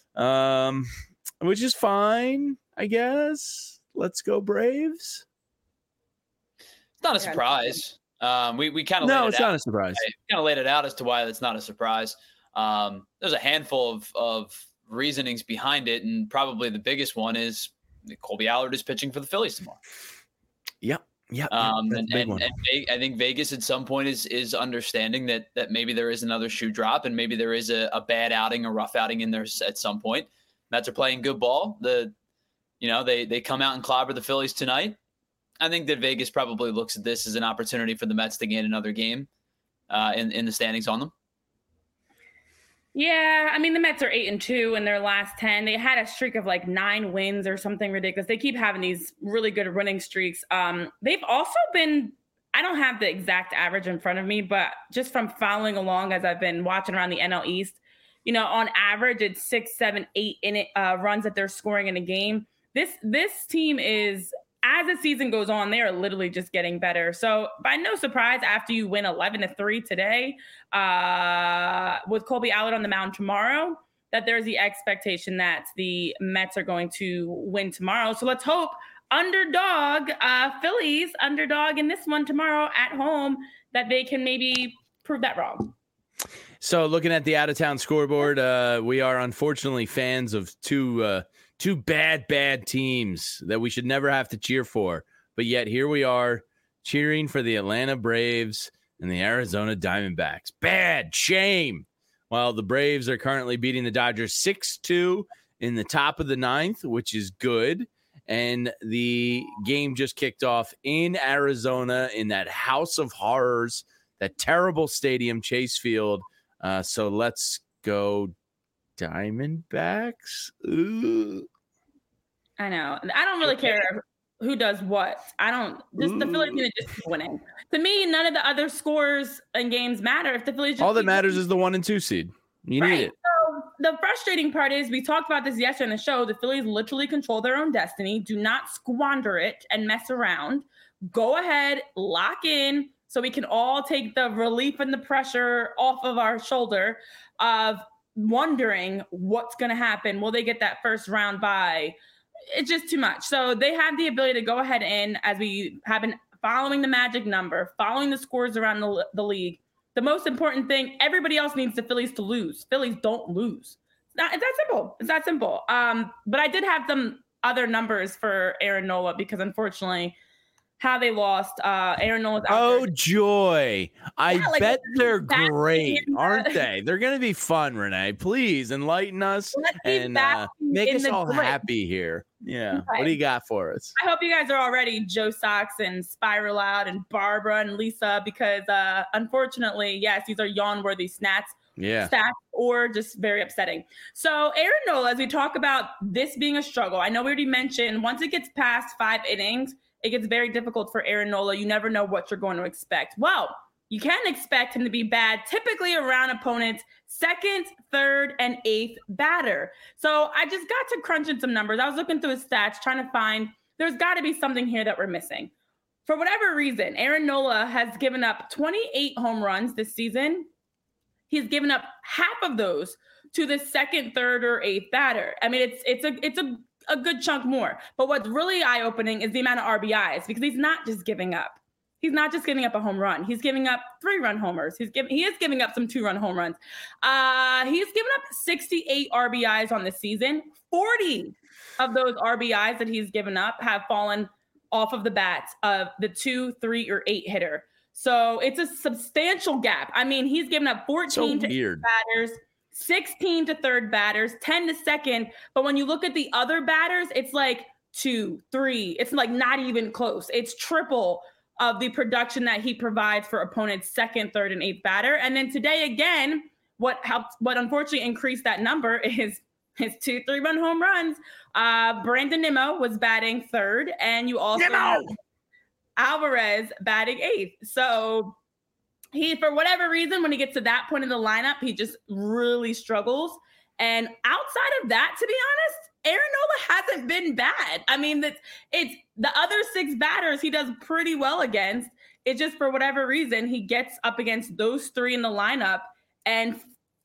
Which is fine, I guess. Let's go Braves. It's not a surprise. We kind of it's not a surprise. Kind of laid it out as to why it's not a surprise. There's a handful of reasonings behind it, and probably the biggest one is Colby Allard is pitching for the Phillies tomorrow. Yep. Yeah, and I think Vegas at some point is understanding that maybe there is another shoe drop, and maybe there is a bad outing, a rough outing in there at some point. Mets are playing good ball. They come out and clobber the Phillies tonight. I think that Vegas probably looks at this as an opportunity for the Mets to gain another game in the standings on them. Yeah, I mean, the Mets are 8-2 in their last 10. They had a streak of like 9 wins or something ridiculous. They keep having these really good winning streaks. They've also been, I don't have the exact average in front of me, but just from following along as I've been watching around the NL East, on average, it's 6, 7, 8 runs that they're scoring in a game. This team is, as the season goes on, they are literally just getting better. So by no surprise, after you win 11-3 today, with Colby Allard on the mound tomorrow, that there's the expectation that the Mets are going to win tomorrow. So let's hope underdog Phillies, underdog in this one tomorrow at home, that they can maybe prove that wrong. So looking at the out-of-town scoreboard, we are unfortunately fans of two bad teams that we should never have to cheer for. But yet here we are cheering for the Atlanta Braves and the Arizona Diamondbacks. Bad. Shame. While the Braves are currently beating the Dodgers 6-2 in the top of the 9th, which is good. And the game just kicked off in Arizona in that house of horrors, that terrible stadium, Chase Field. So let's go Diamondbacks. Ooh. I know. I don't really care who does what. The Phillies need to just keep winning. To me, none of the other scores and games matter. If the Phillies all that matters is the 1 and 2 seed. You need it. So the frustrating part is, we talked about this yesterday on the show, the Phillies literally control their own destiny. Do not squander it and mess around. Go ahead, lock in, so we can all take the relief and the pressure off of our shoulder of wondering what's going to happen. Will they get that first round bye? It's just too much. So they have the ability to go ahead and, as we have been following the magic number, following the scores around the league, the most important thing, everybody else needs the Phillies to lose. Phillies don't lose. It's that simple. It's that simple. But I did have some other numbers for Aaron Nola because unfortunately how they lost. Aaron Nola's out Oh, there. joy. I bet they're great, aren't they? They're going to be fun, Renee. Please enlighten us and make us all happy here. Yeah. Okay. What do you got for us? I hope you guys are already Joe Sox and Spiral Out and Barbara and Lisa because unfortunately, yes, these are yawn-worthy stats or just very upsetting. So Aaron Nola, as we talk about this being a struggle, I know we already mentioned once it gets past 5 innings, it gets very difficult for Aaron Nola. You never know what you're going to expect. Well, you can expect him to be bad, typically around opponents' 2nd, 3rd, and 8th batter. So I just got to crunching some numbers. I was looking through his stats, trying to find there's got to be something here that we're missing. For whatever reason, Aaron Nola has given up 28 home runs this season. He's given up half of those to the 2nd, 3rd, or 8th batter. I mean, it's a good chunk more. But what's really eye-opening is the amount of RBIs because he's not just giving up. He's not just giving up a home run. He's giving up 3-run homers. He is giving up some 2-run home runs. He's given up 68 RBIs on the season. 40 of those RBIs that he's given up have fallen off of the bats of the 2, 3, or 8 hitter. So it's a substantial gap. I mean, he's given up 14 to 8 batters, 16 to 3rd batters, 10 to 2nd. But when you look at the other batters, it's like 2, 3. It's like not even close. It's triple of the production that he provides for opponents' 2nd, 3rd, and 8th batter. And then today, again, what unfortunately increased that number is his 2 3-run home runs. Brandon Nimmo was batting 3rd, and you also have Alvarez batting 8th. So he, for whatever reason, when he gets to that point in the lineup, he just really struggles. And outside of that, to be honest, Aaron Nola hasn't been bad. I mean, it's the other 6 batters he does pretty well against. It's just for whatever reason, he gets up against those 3 in the lineup and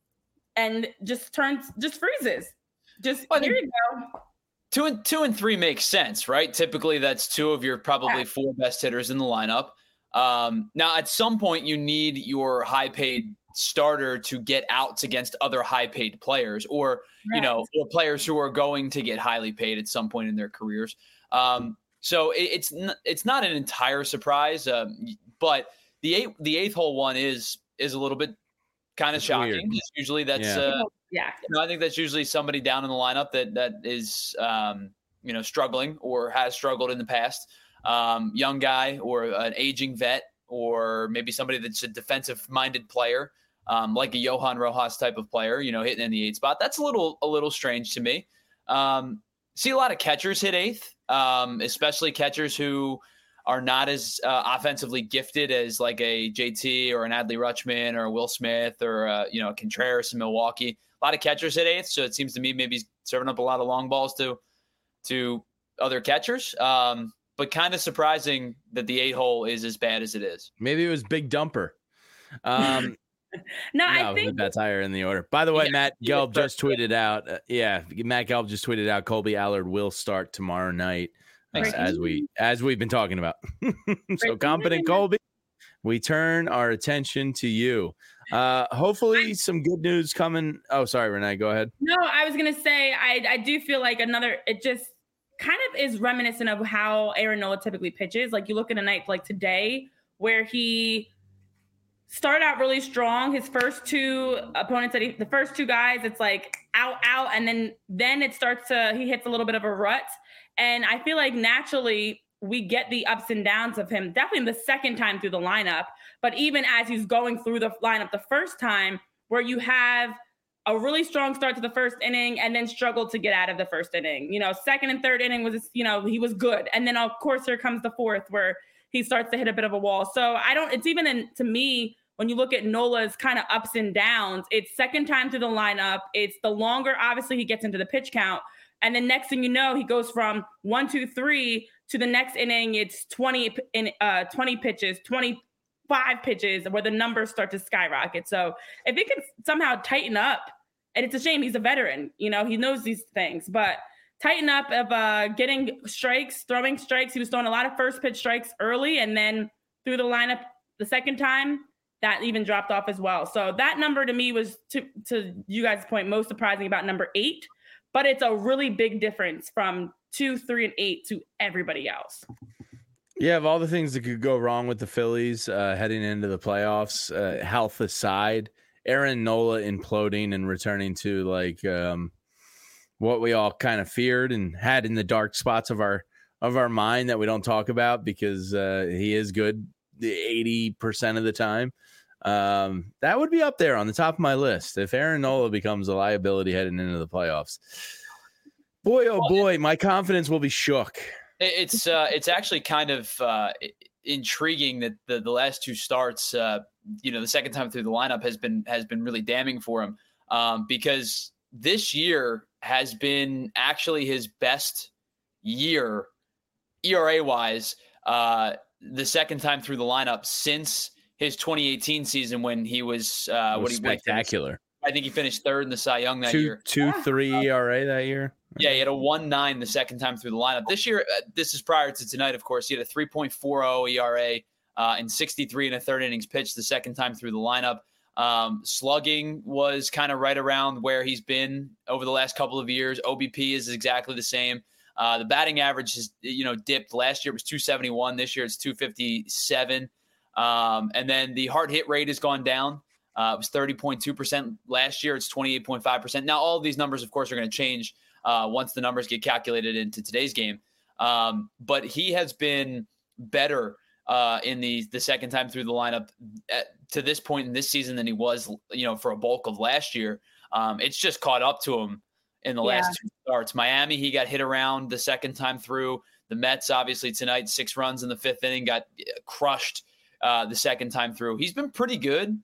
just freezes. Here you go. 2 and 3 makes sense, right? Typically, that's 2 of your probably 4 best hitters in the lineup. Now, at some point, you need your high-paid starter to get outs against other high-paid players, or or players who are going to get highly paid at some point in their careers. So it's not an entire surprise, but the eighth hole one is a little bit kind of shocking. Usually that's I think that's usually somebody down in the lineup that is struggling or has struggled in the past. Young guy or an aging vet, or maybe somebody that's a defensive-minded player, like a Johan Rojas type of player, hitting in the 8th spot. That's a little strange to me. See a lot of catchers hit 8th, especially catchers who are not as offensively gifted as like a JT or an Adley Rutschman or a Will Smith or a Contreras in Milwaukee. A lot of catchers hit 8th, so it seems to me maybe he's serving up a lot of long balls to other catchers. But kind of surprising that the 8 hole is as bad as it is. Maybe it was Big Dumper. No, I think that's higher in the order. By the way, Matt Gelb just tweeted out. Matt Gelb just tweeted out Colby Allard will start tomorrow night, as we've been talking about. So competent Colby, we turn our attention to you. Hopefully, some good news coming. Oh, sorry, Renee, go ahead. No, I was gonna say I do feel like it just kind of is reminiscent of how Aaron Nola typically pitches. Like you look at a night like today where he started out really strong. His first 2 opponents, the first 2 guys, it's like out, and then it starts he hits a little bit of a rut. And I feel like naturally we get the ups and downs of him, definitely the second time through the lineup. But even as he's going through the lineup the first time, where you have a really strong start to the first inning and then struggled to get out of the first inning. 2nd and 3rd inning was, he was good. And then of course here comes the 4th where he starts to hit a bit of a wall. So it's even to me, when you look at Nola's kind of ups and downs, it's second time through the lineup. It's the longer, obviously he gets into the pitch count. And then next thing you know, he goes from 1, 2, 3 to the next inning. It's 20 pitches, 25 pitches where the numbers start to skyrocket. So if he can somehow tighten up, and it's a shame he's a veteran, he knows these things, but tighten up of getting strikes, throwing strikes. He was throwing a lot of first pitch strikes early, and then through the lineup the second time, that even dropped off as well. So that number to me was, to you guys' point, most surprising about number 8. But it's a really big difference from 2, 3, and 8 to everybody else. Yeah, of all the things that could go wrong with the Phillies heading into the playoffs, health aside, Aaron Nola imploding and returning to like what we all kind of feared and had in the dark spots of our mind that we don't talk about because he is good 80% of the time. That would be up there on the top of my list if Aaron Nola becomes a liability heading into the playoffs. Boy, oh boy, my confidence will be shook. It's actually kind of intriguing that the last 2 starts, the second time through the lineup has been really damning for him because this year has been actually his best year ERA wise. The second time through the lineup since his 2018 season when he was spectacular. I think he finished 3rd in the Cy Young that year. 2.3 ERA that year. Yeah, he had a 1.9 the second time through the lineup. This year, this is prior to tonight, of course. He had a 3.40 ERA in 63 1/3 innings pitched the second time through the lineup. Slugging was kind of right around where he's been over the last couple of years. OBP is exactly the same. The batting average has dipped. Last year it was 271. This year it's 257. And then the hard hit rate has gone down. It was 30.2% last year. It's 28.5%. Now all of these numbers, of course, are going to change once the numbers get calculated into today's game. But he has been better in the second time through the lineup to this point in this season than he was, for a bulk of last year. It's just caught up to him in the last 2 starts. Miami, he got hit around the second time through. The Mets, obviously tonight, 6 runs in the 5th inning, got crushed the second time through. He's been pretty good,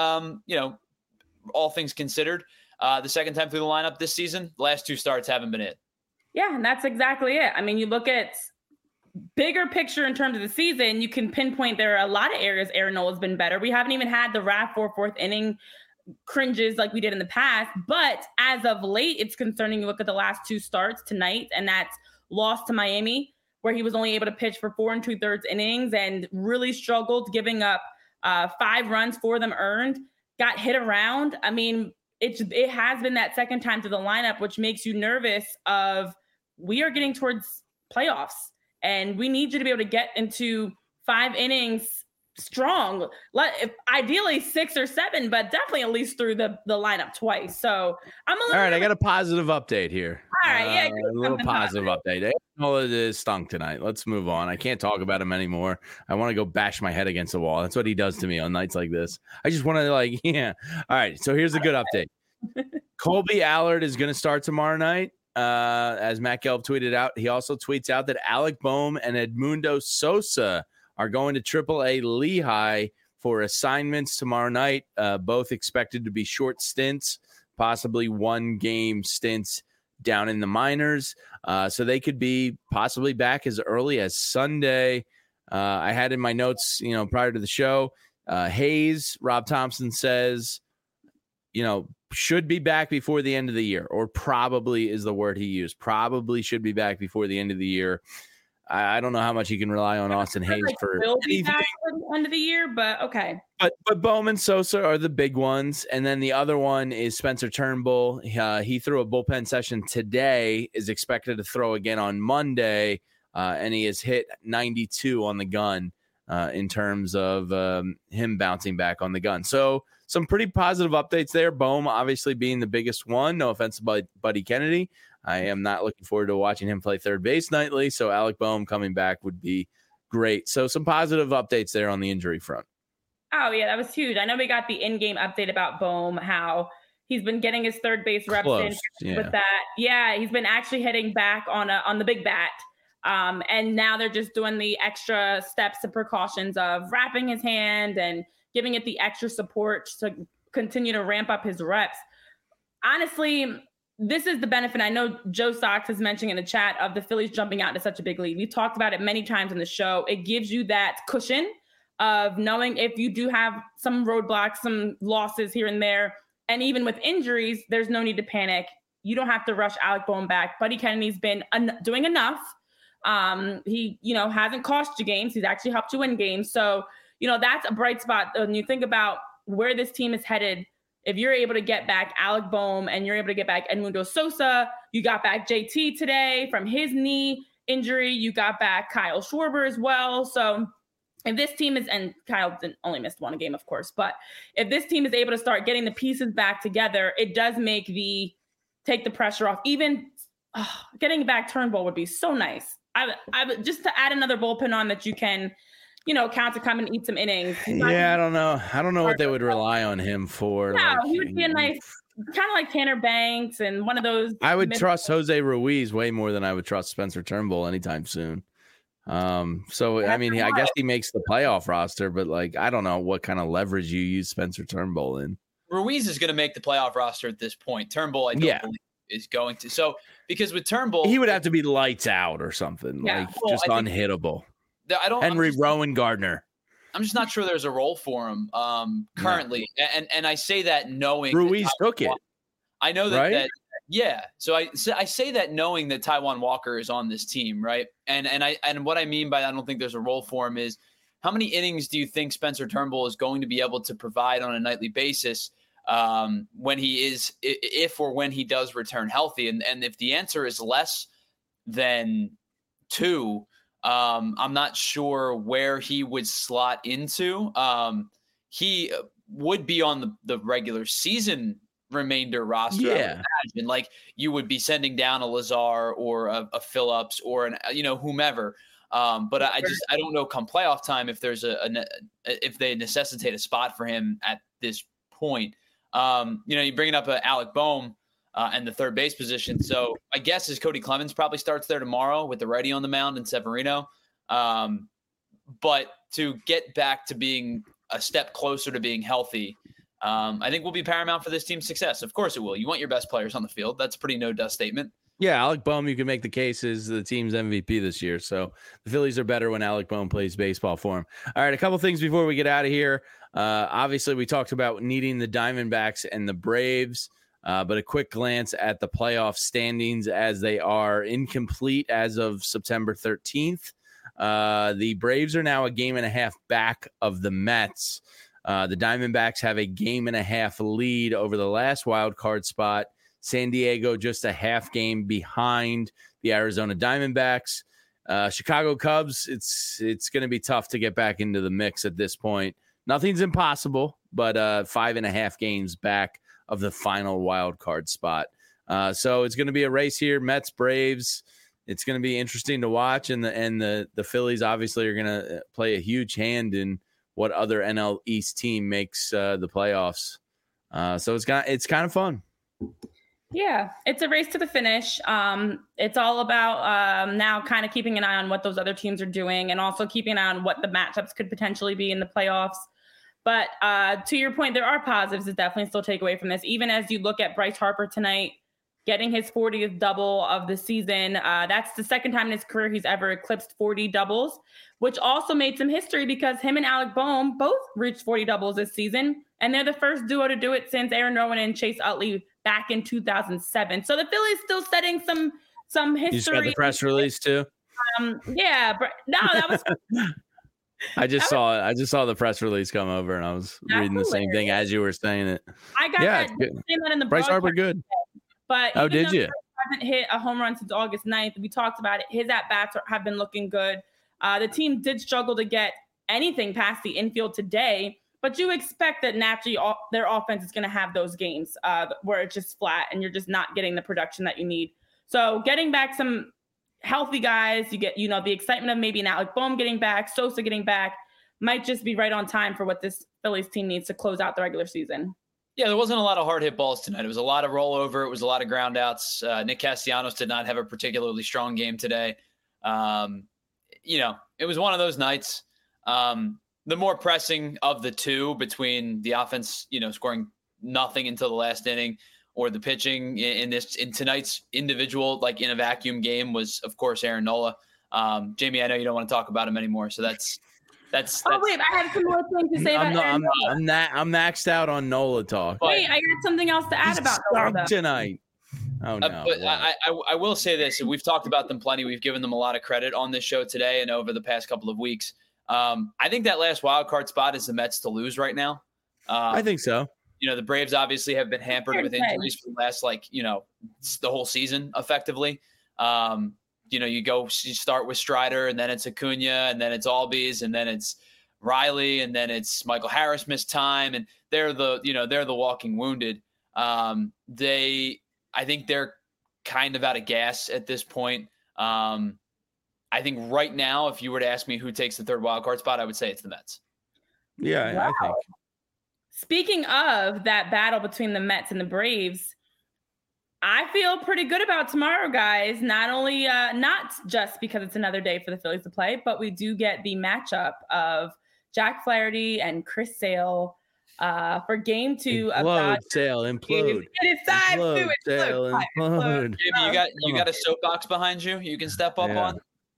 all things considered. The second time through the lineup this season, the last 2 starts haven't been it. Yeah, and that's exactly it. I mean, you look at bigger picture in terms of the season, you can pinpoint there are a lot of areas Aaron Nola's been better. We haven't even had the fourth inning cringes like we did in the past. But as of late, it's concerning. You look at the last 2 starts tonight, and that's loss to Miami, where he was only able to pitch for 4 2/3 innings and really struggled, giving up 5 runs, 4 of them earned, got hit around. I mean, it has been that second time to the lineup, which makes you nervous of we are getting towards playoffs and we need you to be able to get into 5 innings strong. Ideally 6 or 7, but definitely at least through the lineup twice. So I'm a little all right. I got a positive update here. All right. Yeah. A little positive update. Nola is stunk tonight. Let's move on. I can't talk about him anymore. I want to go bash my head against the wall. That's what he does to me on nights like this. I just want to yeah. All right. So here's a good update. Colby Allard is going to start tomorrow night. As Matt Gelb tweeted out, he also tweets out that Alec Bohm and Edmundo Sosa are going to AAA Lehigh for assignments tomorrow night. Both expected to be short stints, possibly 1-game stints down in the minors. So they could be possibly back as early as Sunday. I had in my notes, prior to the show, Hayes, Rob Thompson says, should be back before the end of the year, or probably is the word he used. Probably should be back before the end of the year. I don't know how much you can rely on Austin Hayes for anything. Back for the end of the year, but okay. But Bohm and Sosa are the big ones, and then the other one is Spencer Turnbull. He threw a bullpen session today, is expected to throw again on Monday, and he has hit 92 on the gun in terms of him bouncing back on the gun. So some pretty positive updates there. Bohm obviously being the biggest one. No offense to Buddy Kennedy. I am not looking forward to watching him play third base nightly. So Alec Bohm coming back would be great. So some positive updates there on the injury front. Oh, yeah, that was huge. I know we got the in-game update about Bohm, how he's been getting his third base reps in with that. Yeah, he's been actually hitting back on the big bat. And now they're just doing the extra steps and precautions of wrapping his hand and giving it the extra support to continue to ramp up his reps. Honestly, this is the benefit. I know Joe Sox is mentioning in the chat of the Phillies jumping out to such a big lead. We talked about it many times in the show. It gives you that cushion of knowing if you do have some roadblocks, some losses here and there, and even with injuries, there's no need to panic. You don't have to rush Alec Bohm back. Buddy Kennedy's been doing enough. He, hasn't cost you games. He's actually helped you win games. So that's a bright spot. When you think about where this team is headed, if you're able to get back Alec Bohm and you're able to get back Edmundo Sosa, you got back JT today from his knee injury, you got back Kyle Schwarber as well. So if this team is, and Kyle only missed one game, of course, but if this team is able to start getting the pieces back together, it does take the pressure off. Even getting back Turnbull would be so nice. I just to add another bullpen on that you can, count to come and eat some innings. Yeah, I don't know what they would rely on him for. Yeah, he would be a nice, kind of like Tanner Banks and one of those. I would trust Jose Ruiz way more than I would trust Spencer Turnbull anytime soon. So I mean, I guess he makes the playoff roster, but I don't know what kind of leverage you use Spencer Turnbull in. Ruiz is going to make the playoff roster at this point. Turnbull, I don't believe is going to. So because with Turnbull, he would have to be lights out or something, just unhittable. Henry Rowan Gardner. I'm just not sure there's a role for him currently, and I say that knowing Ruiz took it. I know that, right? So I say that knowing that Taijuan Walker is on this team, right? And what I mean by that, I don't think there's a role for him is how many innings do you think Spencer Turnbull is going to be able to provide on a nightly basis when he does return healthy? And if the answer is less than 2. I'm not sure where he would slot into. He would be on the regular season remainder roster. Yeah. Imagine. You would be sending down a Lazar or a Phillips or whomever. But I don't know come playoff time if there's if they necessitate a spot for him at this point. You bring up Alec Bohm. And the third base position. So I guess as Cody Clemens probably starts there tomorrow with the righty on the mound and Severino. But to get back to being a step closer to being healthy, I think will be paramount for this team's success. Of course it will. You want your best players on the field. That's a pretty no-dust statement. Yeah, Alec Bohm, you can make the case is the team's MVP this year. So the Phillies are better when Alec Bohm plays baseball for him. All right, a couple things before we get out of here. Obviously, we talked about needing the Diamondbacks and the Braves. But a quick glance at the playoff standings as they are incomplete as of September 13th. The Braves are now a game and a half back of the Mets. The Diamondbacks have a game and a half lead over the last wild card spot. San Diego just a half game behind the Arizona Diamondbacks. Chicago Cubs, it's going to be tough to get back into the mix at this point. Nothing's impossible, but 5.5 games back of the final wild card spot. So it's going to be a race here. Mets, Braves. It's going to be interesting to watch. And the Phillies obviously are going to play a huge hand in what other NL East team makes the playoffs. So it's kind of fun. Yeah, it's a race to the finish. It's all about now kind of keeping an eye on what those other teams are doing and also keeping an eye on what the matchups could potentially be in the playoffs. But to your point, there are positives to definitely still take away from this. Even as you look at Bryce Harper tonight, getting his 40th double of the season. That's the second time in his career he's ever eclipsed 40 doubles, which also made some history because him and Alec Bohm both reached 40 doubles this season. And they're the first duo to do it since Aaron Nolan and Chase Utley back in 2007. So the Phillies still setting some history. You just got the press release too? Yeah, but no, that was... I just saw the press release come over, and I was reading the same thing as you were saying it. I got that in the Bryce Harper good. But did you? Hasn't hit a home run since August 9th. We talked about it. His at-bats have been looking good. The team did struggle to get anything past the infield today, but you expect that naturally their offense is going to have those games where it's just flat and you're just not getting the production that you need. So getting back some healthy guys, you get, the excitement of maybe an Alec Bohm getting back, Sosa getting back, might just be right on time for what this Phillies team needs to close out the regular season. Yeah, there wasn't a lot of hard hit balls tonight. It was a lot of rollover. It was a lot of ground outs. Nick Castellanos did not have a particularly strong game today. It was one of those nights. The more pressing of the two between the offense, scoring nothing until the last inning, or the pitching in tonight's individual, like in a vacuum game, was of course Aaron Nola. Jamie, I know you don't want to talk about him anymore, so that's. Oh wait, I have some more things to say about Aaron Nola. I'm maxed out on Nola talk. Wait, I got something else to add about Nola tonight. Oh no! But I will say this, and we've talked about them plenty. We've given them a lot of credit on this show today and over the past couple of weeks. I think that last wild card spot is the Mets to lose right now. I think so. The Braves obviously have been hampered with injuries for the last, the whole season effectively. You start with Strider, and then it's Acuna, and then it's Albies, and then it's Riley, and then it's Michael Harris missed time, and they're the walking wounded. I think they're kind of out of gas at this point. I think right now, if you were to ask me who takes the third wild card spot, I would say it's the Mets. Yeah, wow. I think. Speaking of that battle between the Mets and the Braves, I feel pretty good about tomorrow, guys. Not only not just because it's another day for the Phillies to play, but we do get the matchup of Jack Flaherty and Chris Sale for Game 2 of Implode, Sale, implode. It is time to Sale, implode. You got a soapbox behind you you can step up on?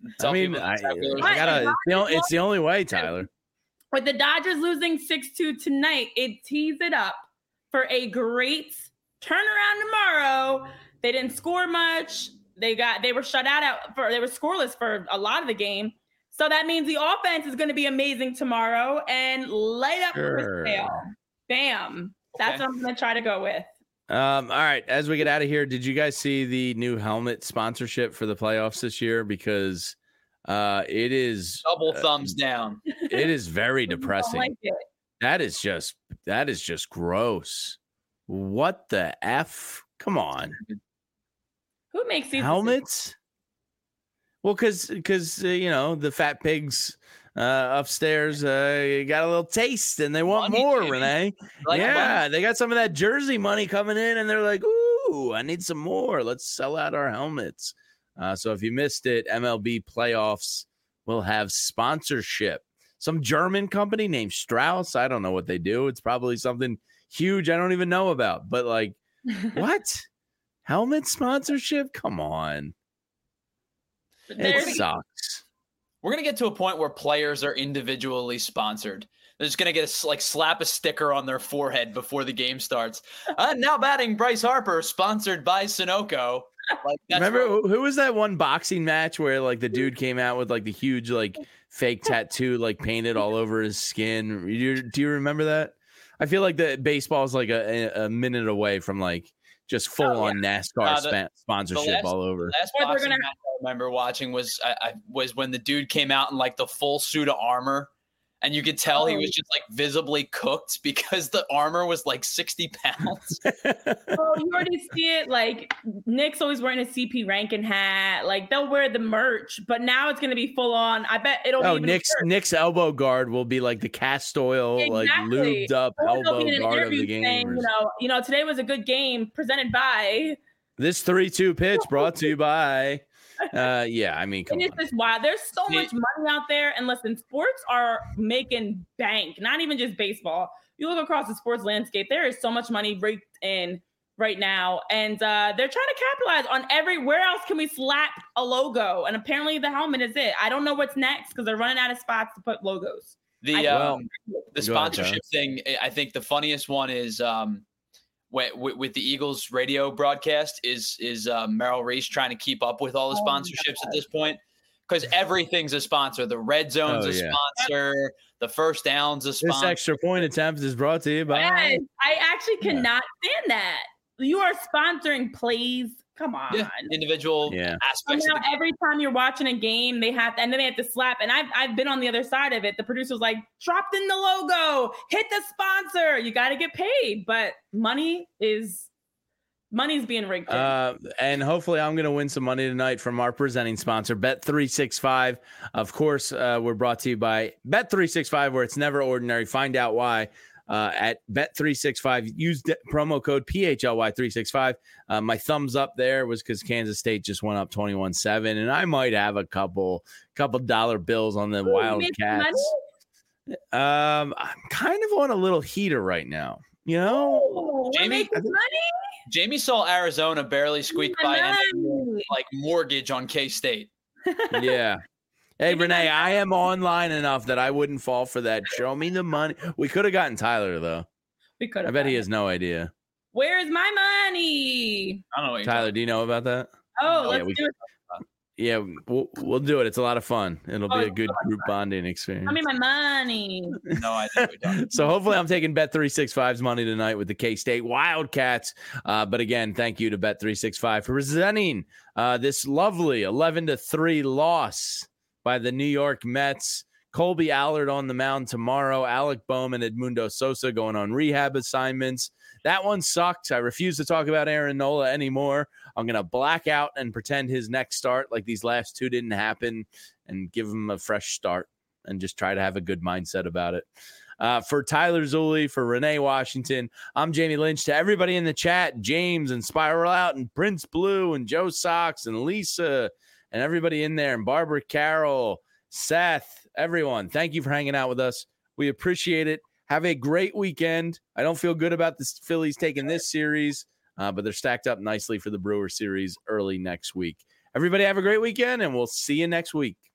It's the only way, Tyler. With the Dodgers losing 6-2 tonight, it tees it up for a great turnaround tomorrow. They didn't score much. They were shut out they were scoreless for a lot of the game. So that means the offense is going to be amazing tomorrow and light up Chris Sale. Bam. That's what I'm going to try to go with. All right. As we get out of here, did you guys see the new helmet sponsorship for the playoffs this year? Because it is double thumbs down. It is very depressing. Like it. That is just gross. What the F? Come on. Who makes these helmets? Well, because the fat pigs upstairs got a little taste and they want more, Renee. They got some of that Jersey money coming in and they're like, ooh, I need some more. Let's sell out our helmets. So if you missed it, MLB playoffs will have sponsorship. Some German company named Strauss. I don't know what they do. It's probably something huge I don't even know about. But what? Helmet sponsorship? Come on. It sucks. We're going to get to a point where players are individually sponsored. They're just going to get slap a sticker on their forehead before the game starts. Now batting Bryce Harper, sponsored by Sunoco. Remember who was that one boxing match where the dude came out with the huge fake tattoo painted all over his skin? Do you remember that? I feel like the baseball is a minute away from just full on NASCAR sponsorship all over. The last boxing match I remember watching was when the dude came out in the full suit of armor. And you could tell he was just visibly cooked because the armor was 60 pounds. You already see it. Nick's always wearing a CP Rankin hat. They'll wear the merch, but now it's going to be full on. I bet it'll be Nick's elbow guard will be the cast oil, lubed up elbow guard of the game. Saying, today was a good game presented by this 3-2 pitch brought to you by. Come on. It's just wild. There's so much money out there, and listen, sports are making bank. Not even just baseball. You look across the sports landscape, there is so much money raked in right now, and they're trying to capitalize on where else can we slap a logo? And apparently, the helmet is it. I don't know what's next because they're running out of spots to put logos. The sponsorship thing. I think the funniest one is. With the Eagles radio broadcast is Merrill Reese trying to keep up with all the sponsorships at this point because everything's a sponsor. The red zone's a sponsor. The first down's a sponsor. This extra point attempt is brought to you by. Yes, I actually cannot stand that. You are sponsoring plays. Come on, individual aspects. So now every time you're watching a game, they have to slap. And I've been on the other side of it. The producer's dropped in the logo, hit the sponsor. You got to get paid, but money's being rigged. And hopefully, I'm going to win some money tonight from our presenting sponsor, Bet365. Of course, we're brought to you by Bet365, where it's never ordinary. Find out why. At Bet365, use promo code PHLY365. My thumbs up there was because Kansas State just went up 21-7, and I might have a couple dollar bills on the Wildcats. I'm kind of on a little heater right now, Jamie saw Arizona barely squeak by mortgage on K-State. Yeah. Hey, Renee, I am online enough that I wouldn't fall for that. Show me the money. We could have gotten Tyler, though. We could have. I bet he has no idea. Where's my money? I don't know. Tyler, do you know about that? Oh, let's do it. Yeah, we'll do it. It's a lot of fun. It'll be a good group bonding experience. Give me my money. No, I don't. So hopefully I'm taking Bet365's money tonight with the K-State Wildcats. But again, thank you to Bet365 for presenting this lovely 11-3 loss by the New York Mets. Colby Allard on the mound tomorrow. Alec Bowman, Edmundo Sosa going on rehab assignments. That one sucked. I refuse to talk about Aaron Nola anymore. I'm going to black out and pretend his next start like these last two didn't happen and give him a fresh start and just try to have a good mindset about it. For Tyler Zulli, for Renee Washington, I'm Jamie Lynch. To everybody in the chat, James and Spiral Out and Prince Blue and Joe Sox and Lisa and everybody in there and Barbara Carroll, Seth, everyone, thank you for hanging out with us. We appreciate it. Have a great weekend. I don't feel good about the Phillies taking this series, but they're stacked up nicely for the Brewer series early next week. Everybody have a great weekend, and we'll see you next week.